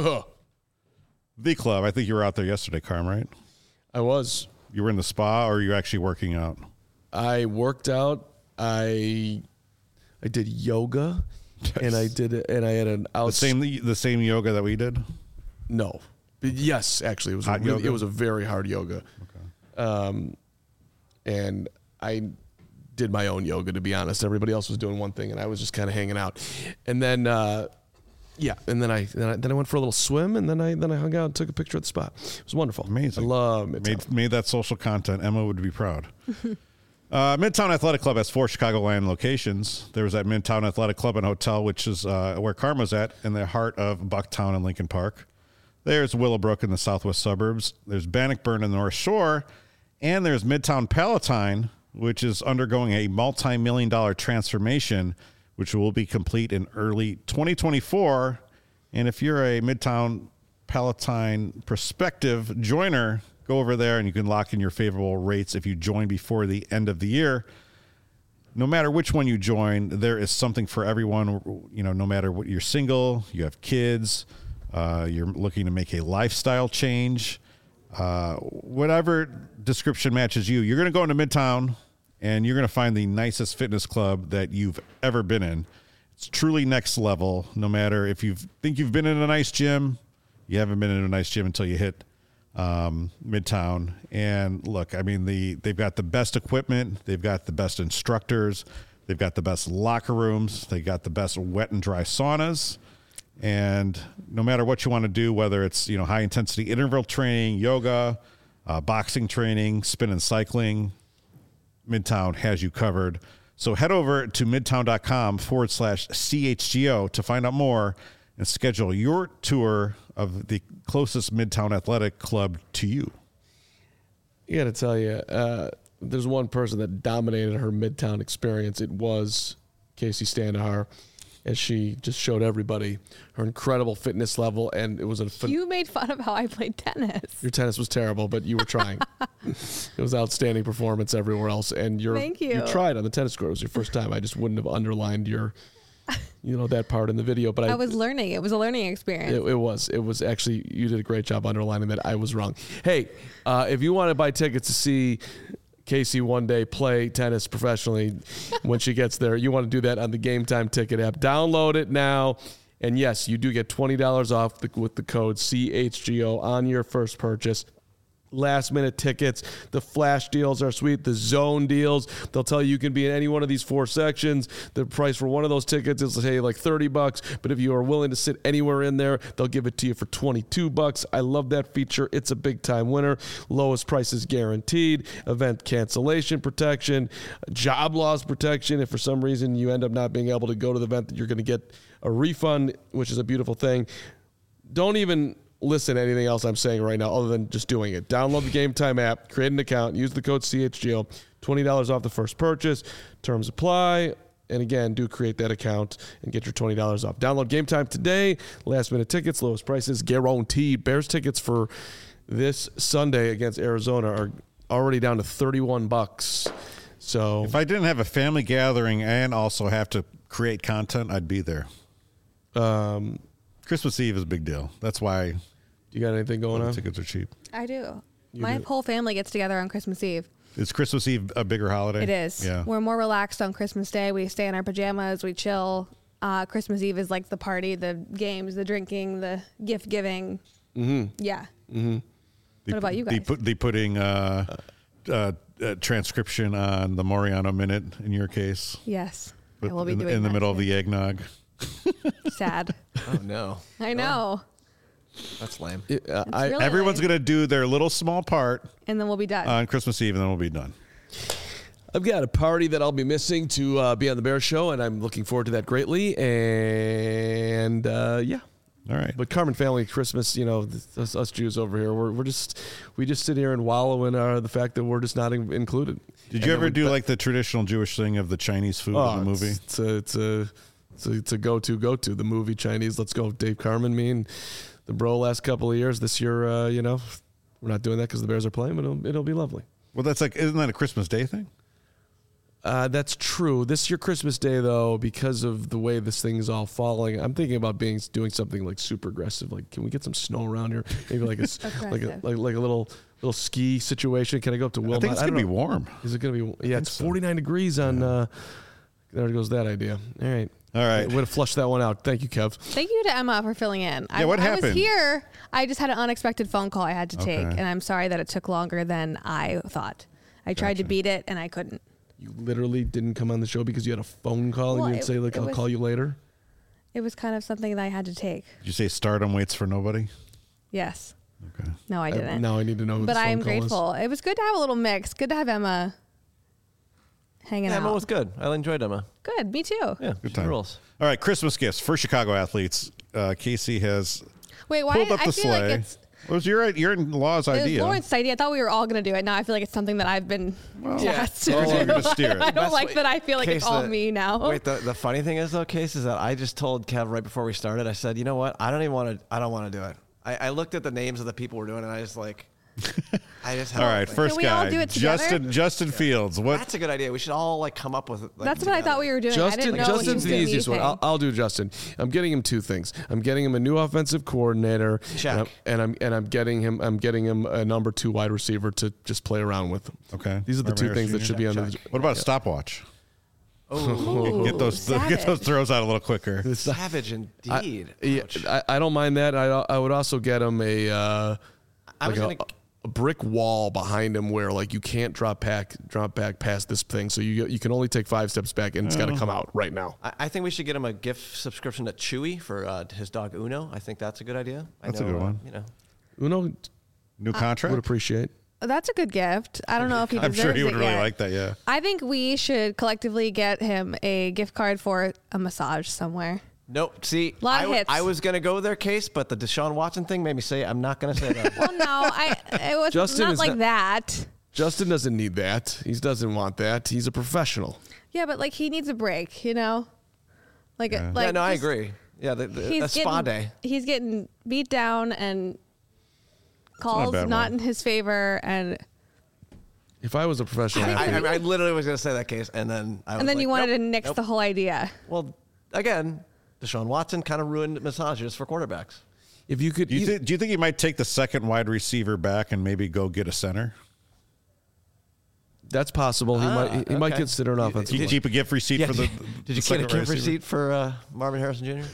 The club. I think you were out there yesterday, Carm, right? I was. You were in the spa, or are you actually working out? I worked out. I I did yoga. Yes. And I did it, and I had an out the same the same yoga that we did. No, but yes, actually, it was a really, it was a very hard yoga. Okay. Um, and I did my own yoga, to be honest. Everybody else was doing one thing, and I was just kind of hanging out. And then, uh, yeah, and then I, then I then I went for a little swim, and then I then I hung out and took a picture at the spot. It was wonderful. Amazing. I love Midtown. Made made that social content. Emma would be proud. Uh, Midtown Athletic Club has four Chicagoland locations. There was that Midtown Athletic Club and Hotel, which is uh, where Karma's at, in the heart of Bucktown and Lincoln Park. There's Willowbrook in the southwest suburbs. There's Bannockburn in the North Shore. And there's Midtown Palatine, which is undergoing a multi-million dollar transformation, which will be complete in early twenty twenty-four. And if you're a Midtown Palatine prospective joiner, go over there and you can lock in your favorable rates if you join before the end of the year. No matter which one you join, there is something for everyone. You know, no matter what, you're single, you have kids, uh, you're looking to make a lifestyle change, uh, whatever description matches you, you're going to go into Midtown and you're going to find the nicest fitness club that you've ever been in. It's truly next level. No matter if you think you've been in a nice gym, you haven't been in a nice gym until you hit um, Midtown. And look, I mean, the they've got the best equipment. They've got the best instructors. They've got the best locker rooms. They got the best wet and dry saunas. And no matter what you want to do, whether it's, you know, high intensity interval training, yoga, uh, boxing training, spin and cycling, Midtown has you covered. So head over to midtown.com forward slash CHGO to find out more and schedule your tour of the closest Midtown Athletic Club to you. You got to tell you, uh, there's one person that dominated her Midtown experience. It was Casey Standahar, as she just showed everybody her incredible fitness level, and it was a fun- You made fun of how I played tennis. your tennis was terrible, but you were trying. It was outstanding performance everywhere else, and you're, Thank you. you tried on the tennis court. It was your first time. I just wouldn't have underlined your, you know, that part in the video. But I, I was learning. It was a learning experience. It, it was. It was actually, you did a great job underlining that. I was wrong. Hey, uh, if you want to buy tickets to see Casey one day play tennis professionally when she gets there, you want to do that on the Game Time Ticket app. Download it now. And yes, you do get twenty dollars off the, with the code C H G O on your first purchase. Last minute tickets. The flash deals are sweet. The zone deals. They'll tell you you can be in any one of these four sections. The price for one of those tickets is, say, like thirty bucks. But if you are willing to sit anywhere in there, they'll give it to you for twenty-two bucks. I love that feature. It's a big time winner. Lowest prices guaranteed. Event cancellation protection. Job loss protection. If for some reason you end up not being able to go to the event, you're going to get a refund, which is a beautiful thing. Don't even listen to anything else I'm saying right now other than just doing it. Download the Game Time app, create an account, use the code C H G O, twenty dollars off the first purchase. Terms apply. And again, do create that account and get your twenty dollars off. Download Game Time today. Last minute tickets, lowest prices guaranteed. Bears tickets for this Sunday against Arizona are already down to thirty-one bucks. So If I didn't have a family gathering and also have to create content, I'd be there. um, Christmas Eve is a big deal. That's why you got anything going the on? tickets are cheap. I do. You My do. whole family gets together on Christmas Eve. Is Christmas Eve a bigger holiday? It is. Yeah. We're more relaxed on Christmas Day. We stay in our pajamas. We chill. Uh, Christmas Eve is like the party, the games, the drinking, the gift giving. Mm-hmm. Yeah. The, What about you guys? The, put, the putting uh, uh, uh, transcription on the Moriano Minute in your case. Yes. But I will be in, doing in the that middle of too. the eggnog. Sad. Oh no, I know. that's lame. It- uh, It's I, really Everyone's lame. going to do their little small part And then we'll be done. on Christmas Eve, and then we'll be done. I've got a party that I'll be missing to uh, be on the Bear Show, and I'm looking forward to that greatly. And uh, yeah, All right. but Carmen family Christmas, you know, th- us, us Jews over here, we're we're just we just sit here and wallow in uh, the fact that we're just not in- included. Did And you then ever we- do like the traditional Jewish thing of the Chinese food Oh, in the movie? It's, it's a it's a it's a, it's a go to go to the movie Chinese. Let's go, Dave Carmen, me and the bro. Last couple of years, this year, uh, you know, we're not doing that because the Bears are playing, but it'll, it'll be lovely. Well, that's like, isn't that a Christmas Day thing? Uh, that's true. This year, Christmas Day, though, because of the way this thing is all falling, I'm thinking about being doing something like super aggressive. Like, can we get some snow around here? Maybe like a s- like a Aggressive. like, like a little little ski situation. Can I go up to Wilmot? I think it's don't going to be know. warm. Is it going to be? Yeah, it's so. forty-nine degrees on. Uh, there goes that idea. All right. All right. Way to flush that one out. Thank you, Kev. Thank you to Emma for filling in. I, Yeah, what I happened? was here. I just had an unexpected phone call I had to take, Okay. and I'm sorry that it took longer than I thought. I tried to Gotcha. beat it, and I couldn't. You literally didn't come on the show because you had a phone call Well, and you didn't it- say like it I'll was- call you later. It was kind of something that I had to take. Did you say stardom waits for nobody? Yes. Okay. No, I I- didn't. now I need to know. Who but the phone I am call is. grateful. It was good to have a little mix. Good to have Emma hanging Yeah, Emma out. was good. I enjoyed Emma. Good. Me too. Yeah, Good she time. rules. All right, Christmas gifts for Chicago athletes. Uh, Casey has Wait, why? pulled up I the feel sleigh. like it's. What was your your in-laws It was idea? Lauren's idea. I thought we were all going to do it. Now I feel like it's something that I've been tasked Oh, to you're do. gonna steer it. I don't Best like way- that I feel like it's Case, all the- me now. Wait, the, the funny thing is though, Case, is that I just told Kev right before we started. I said, you know what? I don't even want to. I don't want to do it. I, I looked at the names of the people we're doing, and I just like. I just. All right, first we all guy, do it together? Justin Justin Fields. What? That's a good idea. We should all like come up with. Like, That's what I thought we were doing. I Justin, didn't know Justin's he the was doing easiest one. anything. I'll, I'll do Justin. I'm getting him two things. I'm getting him a new offensive coordinator, Check. and I'm, and I'm and I'm getting him. I'm getting him a number two wide receiver to just play around with. Okay. These are the Marvin two things that Harris should be Junior? on the. What about a stopwatch? Ooh, Get those get savage. those throws out a little quicker. savage indeed. I, yeah, Ouch. I, I don't mind that. I I would also get him a uh, I like was a, gonna- a brick wall behind him where like you can't drop back drop back past this thing. So you you can only take five steps back and it's got to come out right now. I, I think we should get him a gift subscription to Chewy for uh, his dog Uno. I think that's a good idea. I That's a know, good uh, one. you know, Uno New contract. would appreciate. That's a good gift. I don't know if he I'm deserves sure he would it really yet. like that. Yeah. I think we should collectively get him a gift card for a massage somewhere. Nope. See, Lot I, of w- hits. I was going to go there, Case, but the Deshaun Watson thing made me say I'm not going to say that. Well, no, I it was Justin not is like not- that. Justin doesn't need that. He doesn't want that. He's a professional. Yeah, but like he needs a break, you know? Like, Yeah. like yeah, no, I just- agree. Yeah, the, the, He's a spa getting, day. He's getting beat down and calls bad not one. in his favor, and If I was a professional I, athlete, I, I literally was going to say that, Case, and then I was and then like, you wanted nope, to nix nope. the whole idea. Well, again, Deshaun Watson kind of ruined massages for quarterbacks. if you could, Do you, you- thi- do you think he might take the second wide receiver back and maybe go get a center? that's possible. He Ah, might. He might okay. consider an offensive. Do you line. keep a gift receipt Yeah, for the? did the you get a second gift receiver? receipt for uh, Marvin Harrison Junior?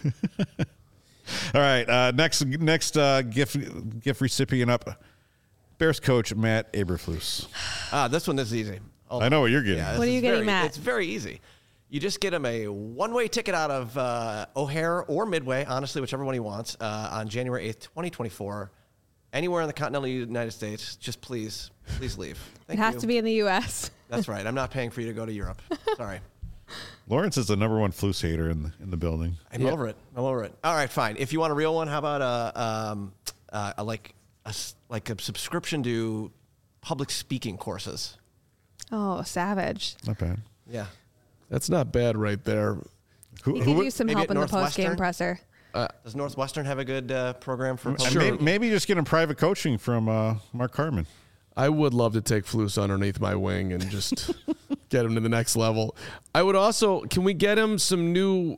All right. Uh, next, next uh, gift gift recipient up. Bears coach Matt Eberflus. Ah, this one is easy. Oh, I know what you're getting. yeah, What this are you is getting, very- Matt? It's very easy. You just get him a one-way ticket out of uh, O'Hare or Midway, honestly, whichever one he wants, uh, on January eighth, twenty twenty-four. Anywhere in the continental United States, just please, please leave. Thank it has you. to be in the U S That's right. I'm not paying for you to go to Europe. Sorry. Lawrence is the number one Flus hater in the, in the building. I'm over it. I'm over it. All right, fine. If you want a real one, how about a, um, uh, a like a, s- like a subscription to public speaking courses? Oh, savage. Not bad. Yeah. That's not bad right there. Who, He who could would- use some maybe help at in the post game Northwestern? presser. Does Northwestern have a good uh, program for Uh, public may- speaking? maybe just get him private coaching from uh, Mark Carman. I would love to take Flus underneath my wing and just get him to the next level. I would also, can we get him some new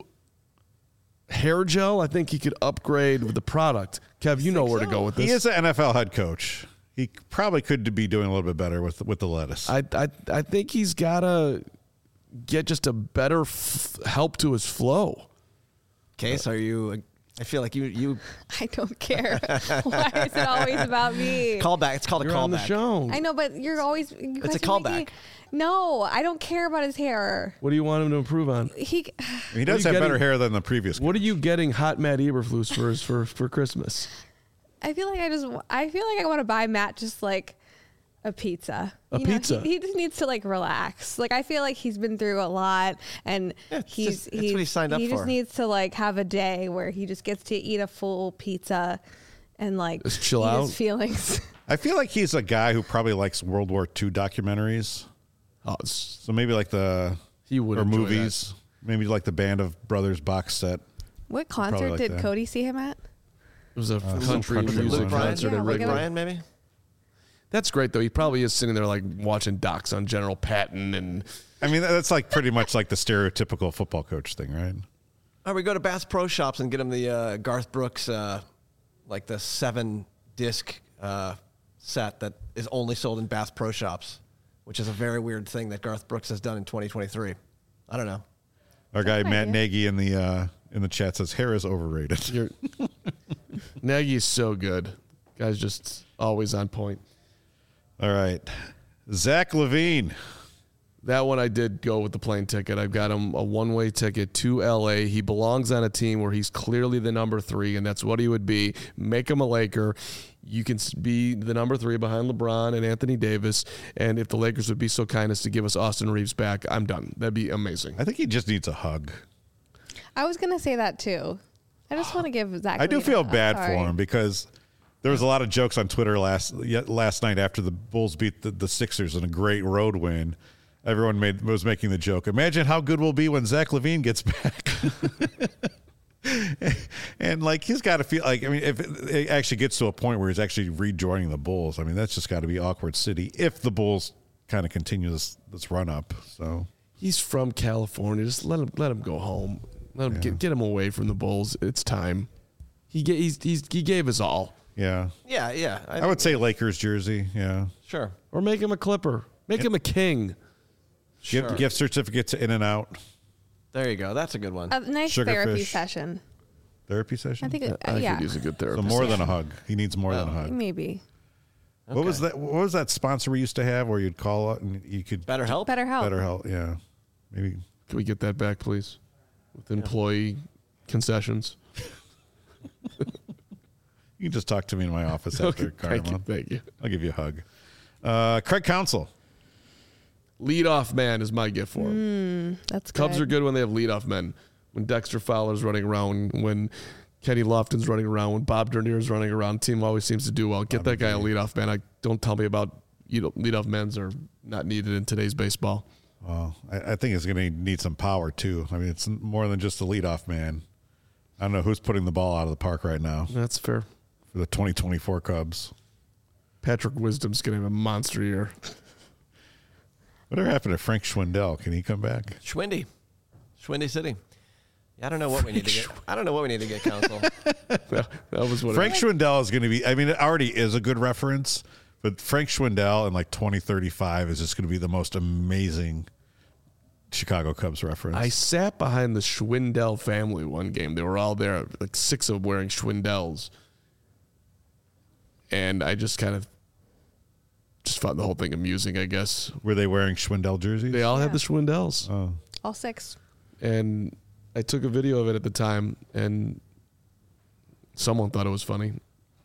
hair gel? I think he could upgrade with the product. Kev, you know where to go with this. He is an N F L head coach. He probably could be doing a little bit better with with the lettuce. I, I, I think he's got to get just a better f- help to his flow. Case, are you? I feel like you you I don't care. Why is it always about me? call back. It's called a You're callback. on the show. I know, but you're always. You It's a guys are making- callback. No, I don't care about his hair. What do you want him to improve on? He. he does you have better getting- hair than the previous. What are you getting hot Matt Eberflus for, for, for Christmas? I feel like I just. I feel like I want to buy Matt just like a pizza. A You know, pizza? he, he just needs to like relax. Like I feel like he's been through a lot, and Yeah, it's he's just- it's he's what he signed up he just for. needs to like have a day where he just gets to eat a full pizza, and like Just chill eat out? his feelings. I feel like he's a guy who probably likes World War Two documentaries. Oh, it's, So maybe like the he would or enjoy movies. Maybe like the Band of Brothers box set. What probably concert like did that. Cody see him at? It was a some country country music one. Luke Bryan, concert Yeah, at we're Luke gonna- Wrigley. Bryan, maybe. That's great though. He probably is sitting there like watching docs on General Patton and I mean, that's like pretty much like the stereotypical football coach thing, right? Or we go to Bass Pro Shops and get him the uh, Garth Brooks, uh, like the seven disc uh, set that is only sold in Bass Pro Shops, which is a very weird thing that Garth Brooks has done in twenty twenty-three. I don't know. Our guy an Matt idea. Nagy in the uh, in the chat says hair is overrated. you're Nagy is so good. Guy's just always on point. All right, Zach Levine. That one I did go with the plane ticket. I've got him a one-way ticket to L A. He belongs on a team where he's clearly the number three, and that's what he would be. Make him a Laker. You can s- be the number three behind LeBron and Anthony Davis. And if the Lakers would be so kind as to give us Austin Reeves back, I'm done. That'd be amazing. I think he just needs a hug. I was gonna say that too. I just want to give Zach. I do Levine feel a- bad sorry. for him because there was a lot of jokes on Twitter last ye- last night after the Bulls beat the, the Sixers in a great road win. Everyone made was making the joke. Imagine how good we'll be when Zach Levine gets back. And like he's got to feel like I mean, if it, it actually gets to a point where he's actually rejoining the Bulls, I mean that's just got to be awkward city if the Bulls kind of continue this this run up. So He's from California. Just let him let him go home. Let him Yeah. get, get him away from the Bulls. It's time. He ga- he's, he's, he gave us all. yeah, Yeah, yeah. I would say Lakers jersey. Yeah, sure. Or make him a Clipper. Make him a king. Sure. gift, gift certificate to In and Out There you go. That's a good one. A nice Sugarfish. therapy session. therapy session. I think. It, I uh, yeah, could use a good so therapist. more than a hug. He needs more than a hug. maybe. What was Okay. that? What was that sponsor we used to have where you'd call up and you could Better help. Better help. better help? Yeah, maybe. Can we get that back, please? With employee concessions. You can just talk to me in my office after Okay, thank you. Carnival. Thank you. I'll give you a hug. Uh, Craig Counsell. Leadoff man is my gift for him. Mm, that's good. Cubs are good when they have leadoff men. When Dexter Fowler's running around, when Kenny Lofton's running around, when Bob Dernier's running around, team always seems to do well. Get that guy a leadoff man. I don't tell me about you know leadoff men's are not needed in today's baseball. Well, I, I think it's going to need some power too. I mean, it's more than just a leadoff man. I don't know who's putting the ball out of the park right now That's fair. for the twenty twenty-four Cubs. Patrick Wisdom's going to have a monster year. Whatever happened to Frank Schwindel? Can he come back? Schwindy. Schwindy City. Yeah, I don't know what we need to get. I don't know what we need to get, Counsell. that, that was what Frank it Schwindel is going to be, I mean, it already is a good reference, but Frank Schwindel in like twenty thirty-five is just going to be the most amazing Chicago Cubs reference. I sat behind the Schwindel family one game. They were all there, like six of them wearing Schwindels. And I just kind of just found the whole thing amusing, I guess. Were they wearing Schwindel jerseys? They all Yeah. had the Schwindels. Oh. All six. And I took a video of it at the time, and someone thought it was funny.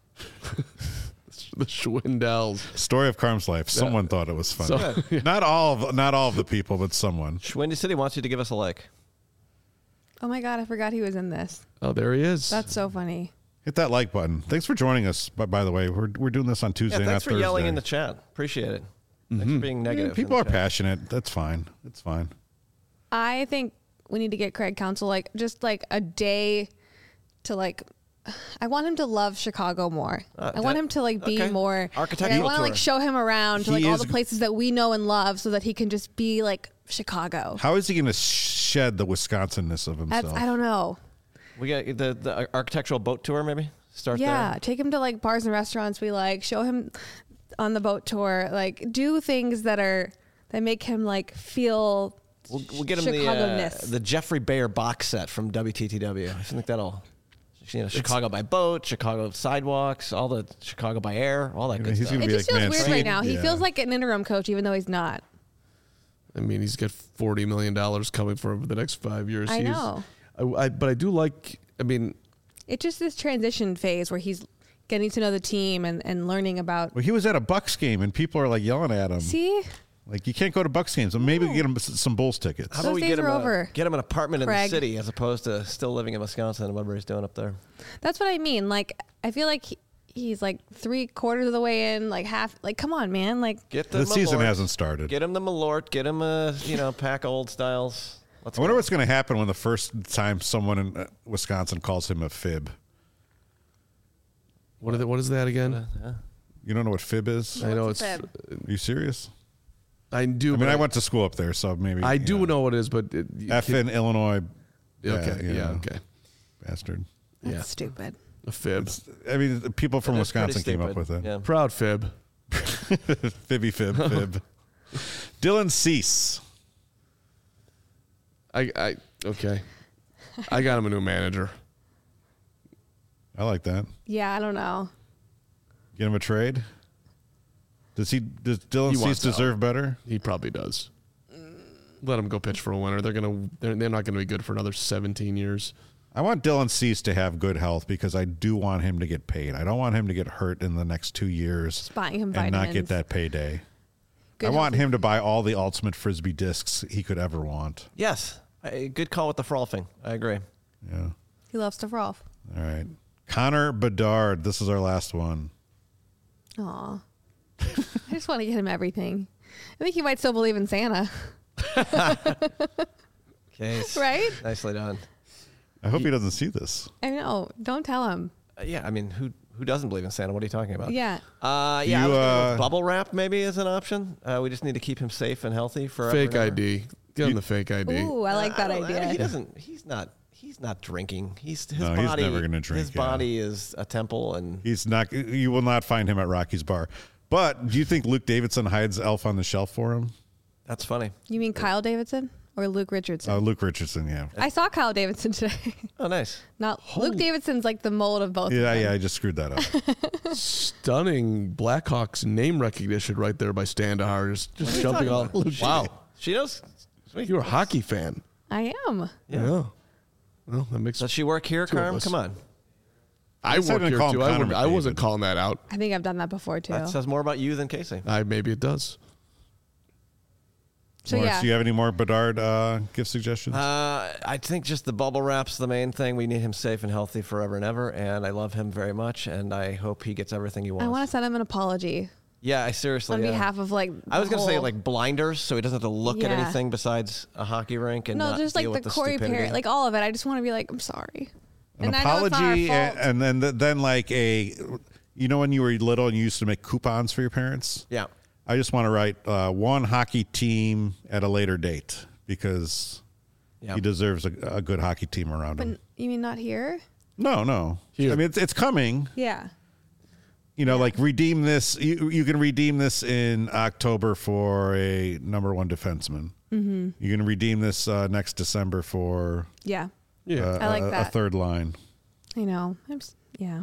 The Schwindels. Story of Carm's life. Someone thought it was funny. So- Not all of not all of the people, but someone. Schwindy City wants you to give us a like. Oh my God, I forgot he was in this. Oh, there he is. That's so funny. Hit that like button. Thanks for joining us. By, by the way, we're we're doing this on Tuesday, Yeah, not thanks for Thursday. yelling in the chat. Appreciate it. Thanks for being I mean, negative. people in are the chat. passionate. That's fine. It's fine. I think we need to get Craig Counsell like just like a day to like. I want him to love Chicago more. Uh, I want that- him to like be okay. more like, I Architectural want to like tour. show him around to He like all is- the places that we know and love, so that he can just be like Chicago. How is he going to shed the Wisconsinness of That's, himself? I don't know. We got the the architectural boat tour. Maybe start Yeah, there. take him to like bars and restaurants we like. Show him on the boat tour. Like do things that are that make him like feel. We'll, we'll get him the uh, Chicago-ness. the Jeffrey Bayer box set from W T T W. I think that'll. You know, Chicago by boat, Chicago sidewalks, all the Chicago by air, all that I mean, good he's stuff. gonna It be just like feels weird Mancini. right now. He Yeah. feels like an interim coach, even though he's not. I mean, he's got forty million dollars coming for him for the next five years. I He's- know. I, I, but I do like, I mean, It's just this transition phase where he's getting to know the team and, and learning about. Well, he was at a Bucks game and people are like yelling at him. See, Like you can't go to Bucks games. So maybe get him s- some Bulls tickets. How Those about we days get him, are a, over, get him an apartment in the Craig. city as opposed to still living in Wisconsin and whatever he's doing up there? that's what I mean. Like, I feel like he, he's like three quarters of the way in, like half. Like, come on, man. Like, Get the, The season Malort. hasn't started. Get him the Malort. Get him a you know pack of old styles. Let's I wonder go. what's going to happen when the first time someone in uh, Wisconsin calls him a fib. what, are the, what is that again? You don't know what fib is? I know What's it's, a fib? Are you serious? I do. I but mean, I went to school up there, so maybe I you do know what it is, but. It, you F can't- in Illinois. Okay, you yeah, know, okay. Bastard. that's Yeah. stupid. A fib. I mean, the people from That is pretty Wisconsin came up stupid. with it. Yeah. Proud fib. Fibby fib fib. Dylan Cease. I, I, okay. I got him a new manager. I like that. Yeah, I don't know. Get him a trade. Does he? Does Dylan He Cease wants out. deserve better? He probably does. Let him go pitch for a winner. They're gonna. They're, they're not gonna be good for another seventeen years. I want Dylan Cease to have good health because I do want him to get paid. I don't want him to get hurt in the next two years Just buying him and not get vitamins. that payday. Good I want healthy- him to buy all the ultimate frisbee discs he could ever want. Yes. A good call with the frolfing. I agree. Yeah. He loves to frolf. All right. Connor Bedard. This is our last one. Aw. I just want to get him everything. I think he might still believe in Santa, Okay. right? Nicely done. I hope he doesn't see this. I know. Don't tell him. Uh, yeah. I mean, who who doesn't believe in Santa? What are you talking about? Yeah. Uh, Do yeah. I you, was gonna go with uh, bubble wrap maybe as an option. Uh, we just need to keep him safe and healthy forever. Fake and ever. I D. Get him the fake I D. Ooh, I like Uh, that don't- idea. He doesn't. He's not. He's not drinking. He's his No, he's body. never gonna drink, His yeah. body is a temple, and He's not. You will not find him at Rocky's bar. But do you think Luke Davidson hides Elf on the Shelf for him? that's funny. You mean Kyle Davidson or Luke Richardson? Uh, Luke Richardson, yeah. I saw Kyle Davidson today. Oh, nice. Not Luke Davidson's like the mold of both. Yeah, of them. yeah, I just screwed that up. Stunning Blackhawks name recognition right there by Standahar. Just, just jumping all. Wow. She knows. Sweet. You're a hockey fan. I am. Yeah. Well, that makes Does she work here, Two of Carm? us. Come on. I least I work didn't here call him too. I, Connor wouldn't- I wasn't McDavid. calling that out. I think I've done that before too. That says more about you than Casey. I maybe it does. So Lawrence, yeah. do you have any more Bedard uh, gift suggestions? Uh, I think just the bubble wrap's the main thing. We need him safe and healthy forever and ever, and I love him very much, and I hope he gets everything he wants. I want to send him an apology yeah, I seriously. on yeah. behalf of like. I was the going to say whole- like blinders, so he doesn't have to look at Yeah. anything besides a hockey rink and no, not just like deal the with the Corey stupidity. Perry, like all of it. I just want to be like, I'm sorry. An and I know it's not our apology, fault. and, and then then like a, you know, when you were little and you used to make coupons for your parents. yeah. I just want to write uh, one hockey team at a later date because Yeah. he deserves a, a good hockey team around But him. you mean not here? No, no. Here. I mean, it's it's coming. Yeah. You know, like redeem this. You, you can redeem this in October for a number one defenseman. Mm-hmm. You can redeem this uh, next December for Yeah. Yeah. uh, I like a, a that. third line. I know. I'm just, yeah.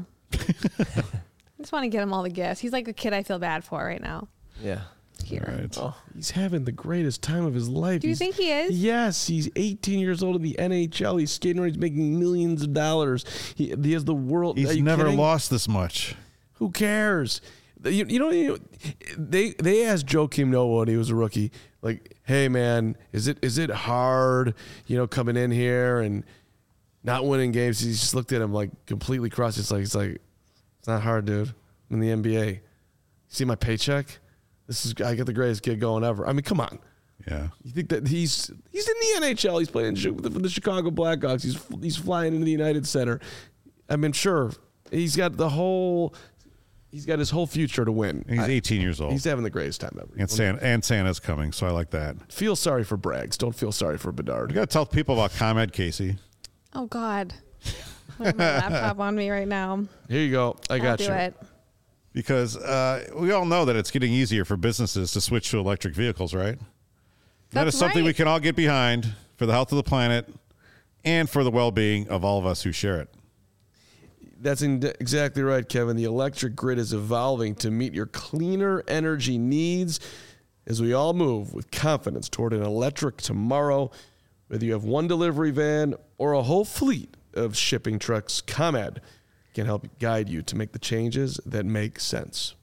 I just want to get him all the gifts. He's like the kid I feel bad for right now. Yeah. Here. All right. Oh, He's having the greatest time of his life. Do you He's- think he is? Yes, he's eighteen years old in the N H L. He's skating around. He's making millions of dollars. He, he has the world. Are He's you never kidding? lost this much. Who cares? You, you know, you, they they asked Joakim Noah when he was a rookie, like, "Hey man, is it is it hard, you know, coming in here and not winning games?" He just looked at him like completely crossed. It's like it's like it's not hard, dude. I'm in the N B A. See my paycheck? This is I get the greatest gig going ever. I mean, come on. Yeah. You think that he's he's in the N H L? He's playing for the, for the Chicago Blackhawks. He's he's flying into the United Center. I mean, sure, he's got the whole. He's got his whole future to win. He's I- eighteen years old. He's having the greatest time ever. and, Santa, and Santa's coming, so I like that. Feel sorry for Braggs. Don't feel sorry for You Bedard. got to tell people about ComEd, Casey. Oh God. I have my laptop on me right now. Here you go. I got I'll you. do it. Because uh, we all know that it's getting easier for businesses to switch to electric vehicles, right? that is That's something we right. can all get behind for the health of the planet and for the well-being of all of us who share it. That's in- exactly right, Kevin. The electric grid is evolving to meet your cleaner energy needs as we all move with confidence toward an electric tomorrow. Whether you have one delivery van or a whole fleet of shipping trucks, ComEd can help guide you to make the changes that make sense.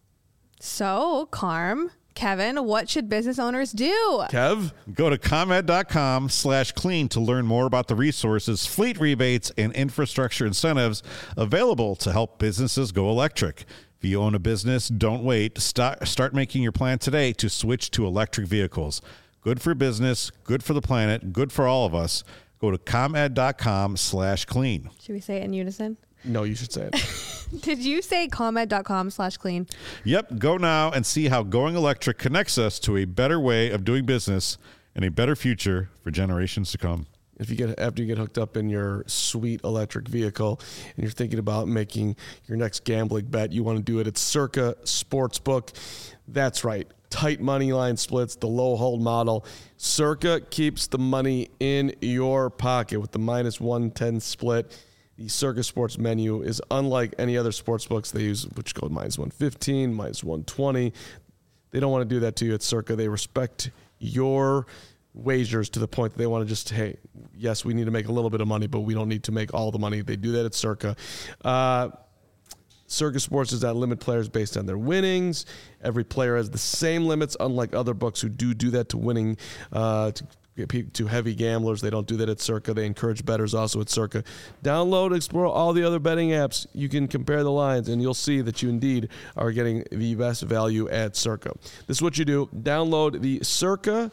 So, Carm, Kevin, what should business owners do? Kev? Go to ComEd.com slash clean to learn more about the resources, fleet rebates, and infrastructure incentives available to help businesses go electric. If you own a business, don't wait. Start, start making your plan today to switch to electric vehicles. Good for business, good for the planet, good for all of us. Go to ComEd.com slash clean. Should we say it in unison? No, you should say it. Did you say ComEd.com slash clean? Yep, go now and see how going electric connects us to a better way of doing business and a better future for generations to come. If you get after you get hooked up in your sweet electric vehicle and you're thinking about making your next gambling bet, you want to do it at Circa Sportsbook. That's right. Tight money line splits, the low hold model. Circa keeps the money in your pocket with the minus one ten split. The Circa Sports menu is unlike any other sports books they use, which go minus one fifteen, minus one twenty. They don't want to do that to you at Circa. They respect your wagers to the point that they want to just, hey, yes, we need to make a little bit of money, but we don't need to make all the money. They do that at Circa. Uh, Circa Sports does not limit players based on their winnings. Every player has the same limits, unlike other books who do do that to winning, uh, to to heavy gamblers. They don't do that at Circa. They encourage bettors also at Circa. Download, explore all the other betting apps. You can compare the lines, and you'll see that you indeed are getting the best value at Circa. This is what you do. Download the Circa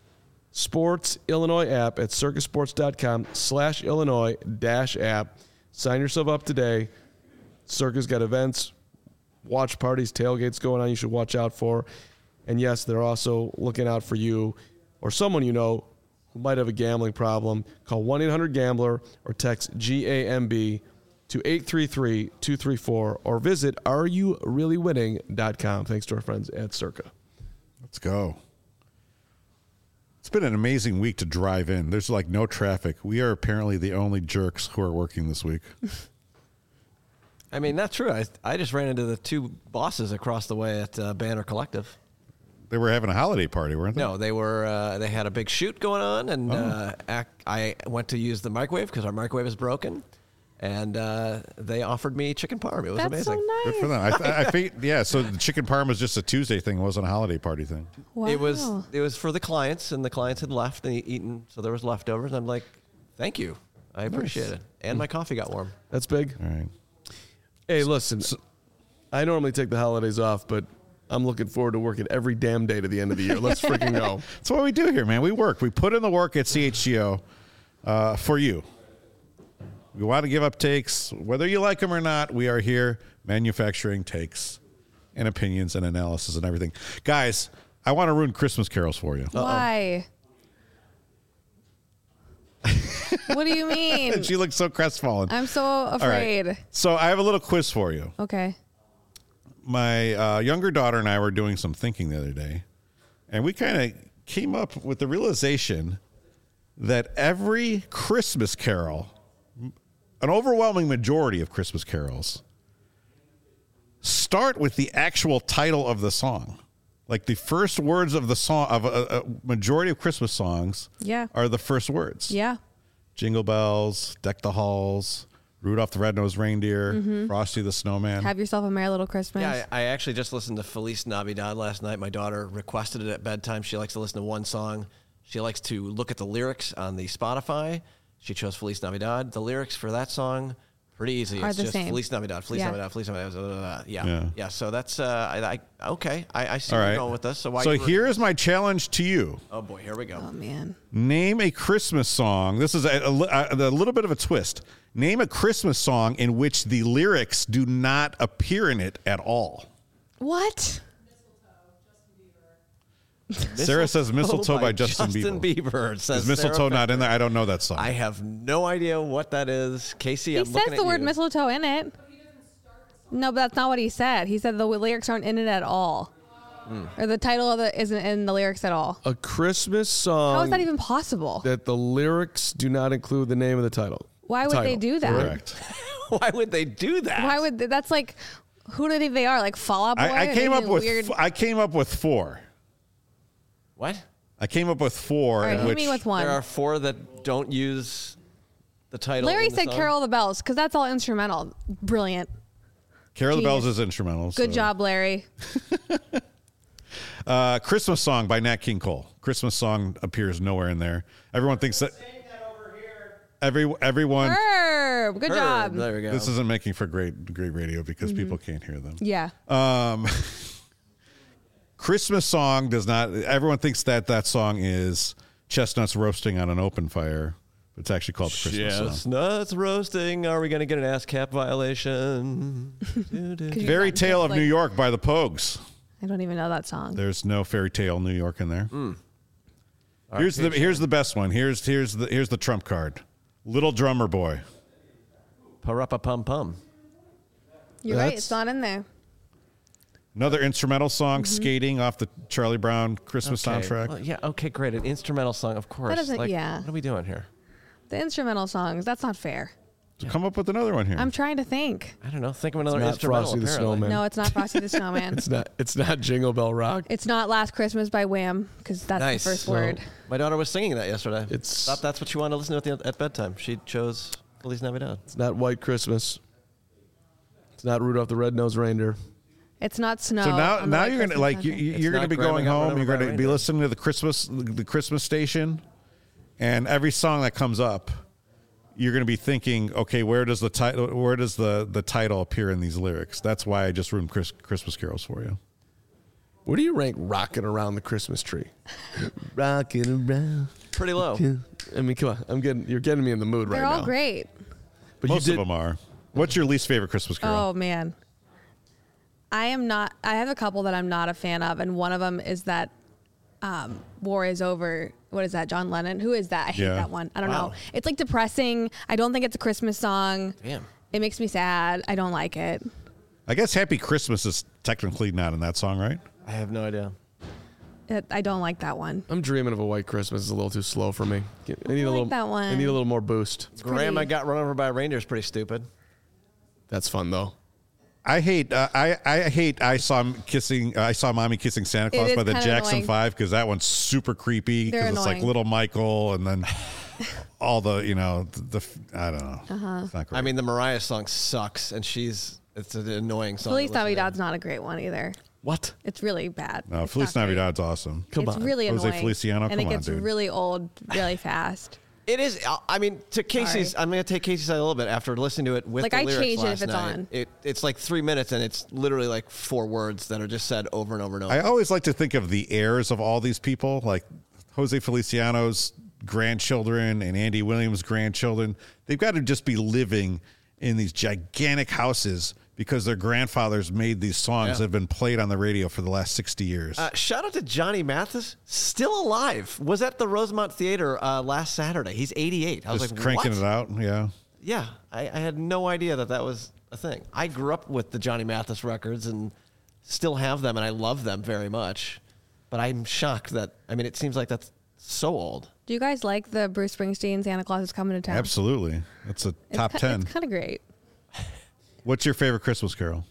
Sports Illinois app at circasports.com slash Illinois dash app. Sign yourself up today. Circa's got events, watch parties, tailgates going on you should watch out for. And yes, they're also looking out for you or someone you know who might have a gambling problem. Call one eight hundred gambler or text G A M B to eight three three, two three four or visit are you really winning dot com. Thanks to our friends at Circa. Let's go. It's been an amazing week to drive in. There's like no traffic. We are apparently the only jerks who are working this week. I mean, that's true. I, I just ran into the two bosses across the way at uh, Banner Collective. They were having a holiday party, weren't they? No, they were. Uh, they had a big shoot going on, and Oh. uh, ac- I went to use the microwave because our microwave is broken. and uh, they offered me chicken parm. It was That's amazing. so nice. Good for them. I, th- I think, yeah. So the chicken parm was just a Tuesday thing. It wasn't a holiday party thing. Wow. It was it was for the clients, and the clients had left and eaten, so there was leftovers. And I'm like, thank you, I appreciate it, and my coffee got warm. That's big. All right. Hey, listen, I normally take the holidays off, but I'm looking forward to working every damn day to the end of the year. Let's freaking go. That's what we do here, man. We work. We put in the work at C H G O uh, for you. We want to give up takes. Whether you like them or not, we are here manufacturing takes and opinions and analysis and everything. Guys, I want to ruin Christmas carols for you. Why? What do you mean? She looks so crestfallen. I'm so All right. afraid. So I have a little quiz for you. Okay. My uh, younger daughter and I were doing some thinking the other day, and we kind of came up with the realization that every Christmas carol, an overwhelming majority of Christmas carols, start with the actual title of the song. Like the first words of the song, of a, a majority of Christmas songs Yeah. are the first words. Yeah. Jingle bells, deck the halls, Rudolph the Red-Nosed Reindeer, Frosty the Snowman. Have yourself a merry little Christmas. Yeah, I, I actually just listened to Feliz Navidad last night. My daughter requested it at bedtime. She likes to listen to one song. She likes to look at the lyrics on the Spotify. She chose Feliz Navidad. The lyrics for that song, pretty easy. Are It's the just same. Feliz Navidad, Feliz Yeah. Navidad, Feliz Navidad. blah, blah, blah. Yeah. Yeah. yeah, So that's uh, I, I okay. I, I see All where right. you're going with this. So why? So you were- here is my challenge to you. Oh boy, here we go. Oh man. Name a Christmas song. This is a, a, li- a- a little bit of a twist. Name a Christmas song in which the lyrics do not appear in it at all. What? Sarah says Mistletoe by Justin Bieber. Bieber. Says Is Mistletoe Sarah not in Becker. there? I don't know that song. I have no idea what that is. Casey, He I'm says looking the at word you. mistletoe in it. No, but that's not what he said. He said the lyrics aren't in it at all. Or the title of it isn't in the lyrics at all. A Christmas song How is that even possible? that the lyrics do not include the name of the title. Why would they Title. do that? Correct. Why would they do that? Why would they, that's like who do they think they are? Like Fall Out Boy? I, I Are came they up with weird. f- I came up with four. What? I came up with four. All right, in hit which me with one. There are four that don't use the title. Larry in the said song. Carol of the Bells because that's all instrumental. Brilliant. Carol of the Bells Genius. is instrumental. Good so. job, Larry. Uh, Christmas Song by Nat King Cole. Christmas Song appears nowhere in there. Everyone thinks that. Every everyone. Herb, good Herb, job. There we go. This isn't making for great great radio because people can't hear them. Yeah. Um, Christmas Song does not. Everyone thinks that that song is chestnuts roasting on an open fire. But it's actually called the Christmas Song. Chestnuts roasting. Are we going to get an ASCAP violation? Doo, doo. Could you Fairy not Tale just, of like- New York by the Pogues. I don't even know that song. There's no Fairy Tale New York in there. Hmm. Here's the here's the best one. Here's here's the here's the trump card. Little Drummer Boy. Parappa pum pum. You're right. That's- It's not in there. Another instrumental song, Mm-hmm. Skating, off the Charlie Brown Christmas Okay. soundtrack. Well, yeah. Okay. Great. An instrumental song, of course. doesn't- Like, yeah. What are we doing here? The instrumental songs. That's not fair. So come up with another one here. I'm trying to think. I don't know. Think of another not instrumental. Frosty the apparently. Snowman. No, it's not Frosty the Snowman. It's not. It's not Jingle Bell Rock. It's not Last Christmas by Wham because that's Nice. the first So- word. My daughter was singing that yesterday. It's- thought that's what she wanted to listen to at, the, at bedtime. She chose Feliz Navidad. It's not White Christmas. It's not Rudolph the Red-Nosed Reindeer. It's not snow. so now, on the now White you're gonna Christmas like you, soundtrack. you- It's you're gonna not be Grandma going Got Run home. Over You're by a gonna be Reindeer. listening to the Christmas the Christmas station, and every song that comes up, you're gonna be thinking, okay, where does the title where does the the title appear in these lyrics? That's why I just ruined Chris, Christmas carols for you. Where do you rank "Rocking Around the Christmas Tree"? Rocking around. Pretty low. I mean, come on. I'm getting. You're getting me in the mood They're right all now. great. But Most you did, of them are. What's your least favorite Christmas carol? Oh man, I am not. I have a couple that I'm not a fan of, and one of them is that um, "War Is Over." What is that? John Lennon. Who is that? I hate Yeah. that one. I don't Wow. know. It's like depressing. I don't think it's a Christmas song. Damn. It makes me sad. I don't like it. I guess Happy Christmas is technically not in that song, right? I have no idea. it I don't like that one. I'm dreaming of a White Christmas. It's a little too slow for me. I need I a like little. that one. I need a little more boost. Grandma pretty. Got Run Over by a Reindeer is pretty stupid. That's fun though. I hate uh, I I hate I saw him kissing uh, I saw mommy kissing Santa Claus is by the kinda Jackson annoying. Five because that one's super creepy They're because it's like annoying. little Michael and then all the, you know, the, the I don't know. Uh-huh. It's not great. I mean, the Mariah song sucks, and she's it's an annoying song. Feliz to listen to. Navidad's not a great one either. What? It's really bad. no, It's Feliz not great. Navidad's awesome. Come it's on. really Jose annoying. Feliciano, and come it on, gets dude. really old really fast. It is. I mean, to Casey's, Sorry. I'm going to take Casey's side a little bit after listening to it with Like, the I lyrics change it last if it's night. on. It, it's like three minutes, and it's literally like four words that are just said over and over and over. I always like to think of the heirs of all these people, like Jose Feliciano's grandchildren and Andy Williams' grandchildren. They've got to just be living in these gigantic houses because their grandfathers made these songs Yeah. that have been played on the radio for the last sixty years. Uh, shout out to Johnny Mathis, still alive. Was at the Rosemont Theater uh, last Saturday. He's eighty-eight. I was just like, cranking what? it out. Yeah. Yeah, I, I had no idea that that was a thing. I grew up with the Johnny Mathis records and still have them, and I love them very much. But I'm shocked that, I mean, it seems like that's so old. Do you guys like the Bruce Springsteen Santa Claus is Coming to Town? Absolutely. That's a It's top ki- ten. It's kind of great. What's your favorite Christmas carol?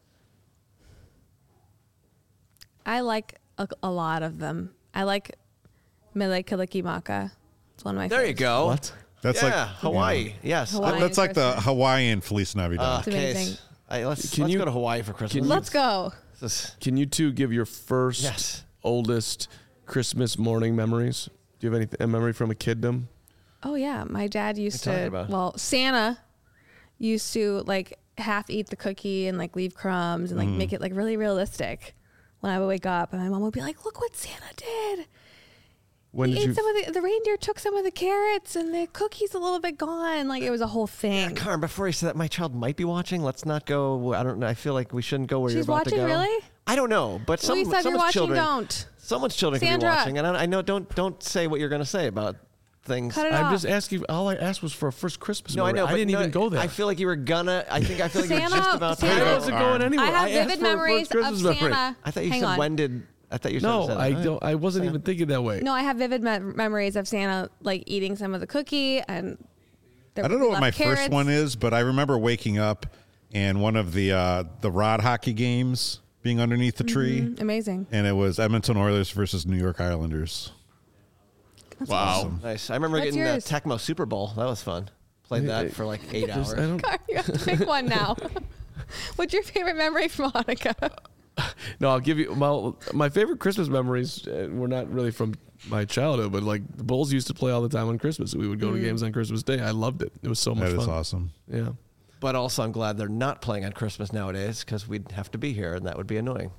I like a, a lot of them. I like Mele Kalikimaka. It's one of my There you favorites. go. What? That's yeah, like Hawaii. Yes. Hawaii. That- that's like the Christmas. Hawaiian Feliz Navidad. Uh, It's amazing. Case. Hey, let's Can let's you- go to Hawaii for Christmas. can you- Let's go. This is- Can you two give your first, Yes. oldest Christmas morning memories? Do you have any a memory from a kiddom? Oh yeah, my dad used What are you to. talking about? Well, Santa used to like half eat the cookie and like leave crumbs and like Mm-hmm. make it like really realistic. When I would wake up and my mom would be like, "Look what Santa did! When he did ate you? some of the the reindeer took some of the carrots and the cookies a little bit gone. Like it was a whole thing." Karen, before you say that, my child might be watching. Let's not go. I don't know. I feel like we shouldn't go where you're She's about to watching, go. really? I don't know, but some, Lisa, if you're someone's watching, children. don't. Someone's children can be Sandra. watching, and I, I know. Don't don't say what you're going to say about things. Cut it I'm off. just asking. All I asked was for a first Christmas. No, I memory. know. I but didn't no, even go there. I feel like you were gonna. I think I feel like you were Santa- just about to. Santa- I go. wasn't going anywhere. I have I asked vivid for a memories first Christmas of memory. Santa. I thought you Hang said on. when did. I thought you said. No, said I that. don't. I wasn't even thinking that way. No, I have vivid me- memories of Santa like eating some of the cookie and. there I don't were know what my left first carrots. one is, but I remember waking up and one of the uh, the rod hockey games being underneath the tree, Mm, Amazing. and it was Edmonton Oilers versus New York Islanders. Wow. Nice. I remember What's getting the yours? Tecmo Super Bowl. That was fun. Played Hey, that hey, for like eight There's- hours. I don't, You have to pick one now. What's your favorite memory from Hanukkah? no, I'll give you my my favorite Christmas memories. Uh, were not really from my childhood, but like the Bulls used to play all the time on Christmas. We would go to games on Christmas Day. I loved it. It was so much That is fun. awesome. Yeah. But also, I'm glad they're not playing on Christmas nowadays because we'd have to be here, and that would be annoying.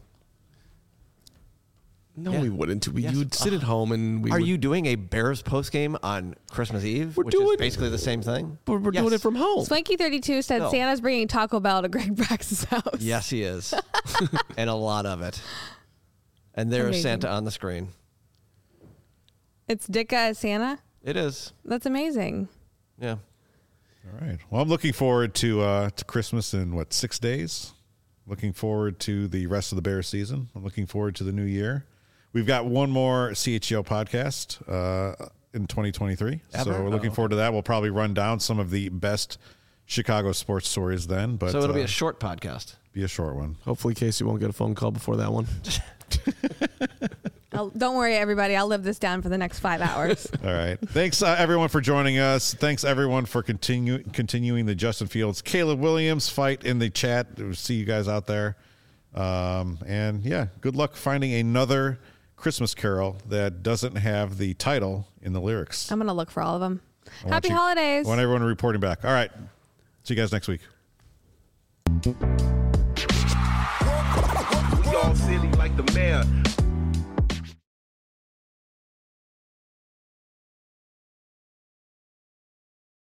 No, Yeah. we wouldn't. We Yes. you would sit at home and we Are would, you doing a Bears post game on Christmas Eve, We're which doing- is basically the same thing? But we're doing Yes. it from home. Swanky thirty-two said No. Santa's bringing Taco Bell to Greg Brax's house. Yes, he is, and a lot of it. And there is Amazing. Santa on the screen. It's Dicka as Santa. It is, That's amazing. yeah. All right. Well, I'm looking forward to uh, to Christmas in what six days. Looking forward to the rest of the Bears season. I'm looking forward to the new year. We've got one more C H G O podcast uh, in twenty twenty-three, so Ever? we're looking Oh, forward to that. We'll probably run down some of the best Chicago sports stories then, but So it'll be uh, a short podcast. be a short one. Hopefully, Casey won't get a phone call before that one. I'll, don't worry, everybody. I'll live this down for the next five hours. All right. Thanks, uh, everyone, for joining us. Thanks, everyone, for continue, continuing the Justin Fields, Caleb Williams fight in the chat. We'll see you guys out there. Um, and, yeah, good luck finding another Christmas carol that doesn't have the title in the lyrics. I'm gonna look for all of them. I want Happy you- holidays. I want everyone reporting back. All right. See you guys next week. We all silly like the mayor.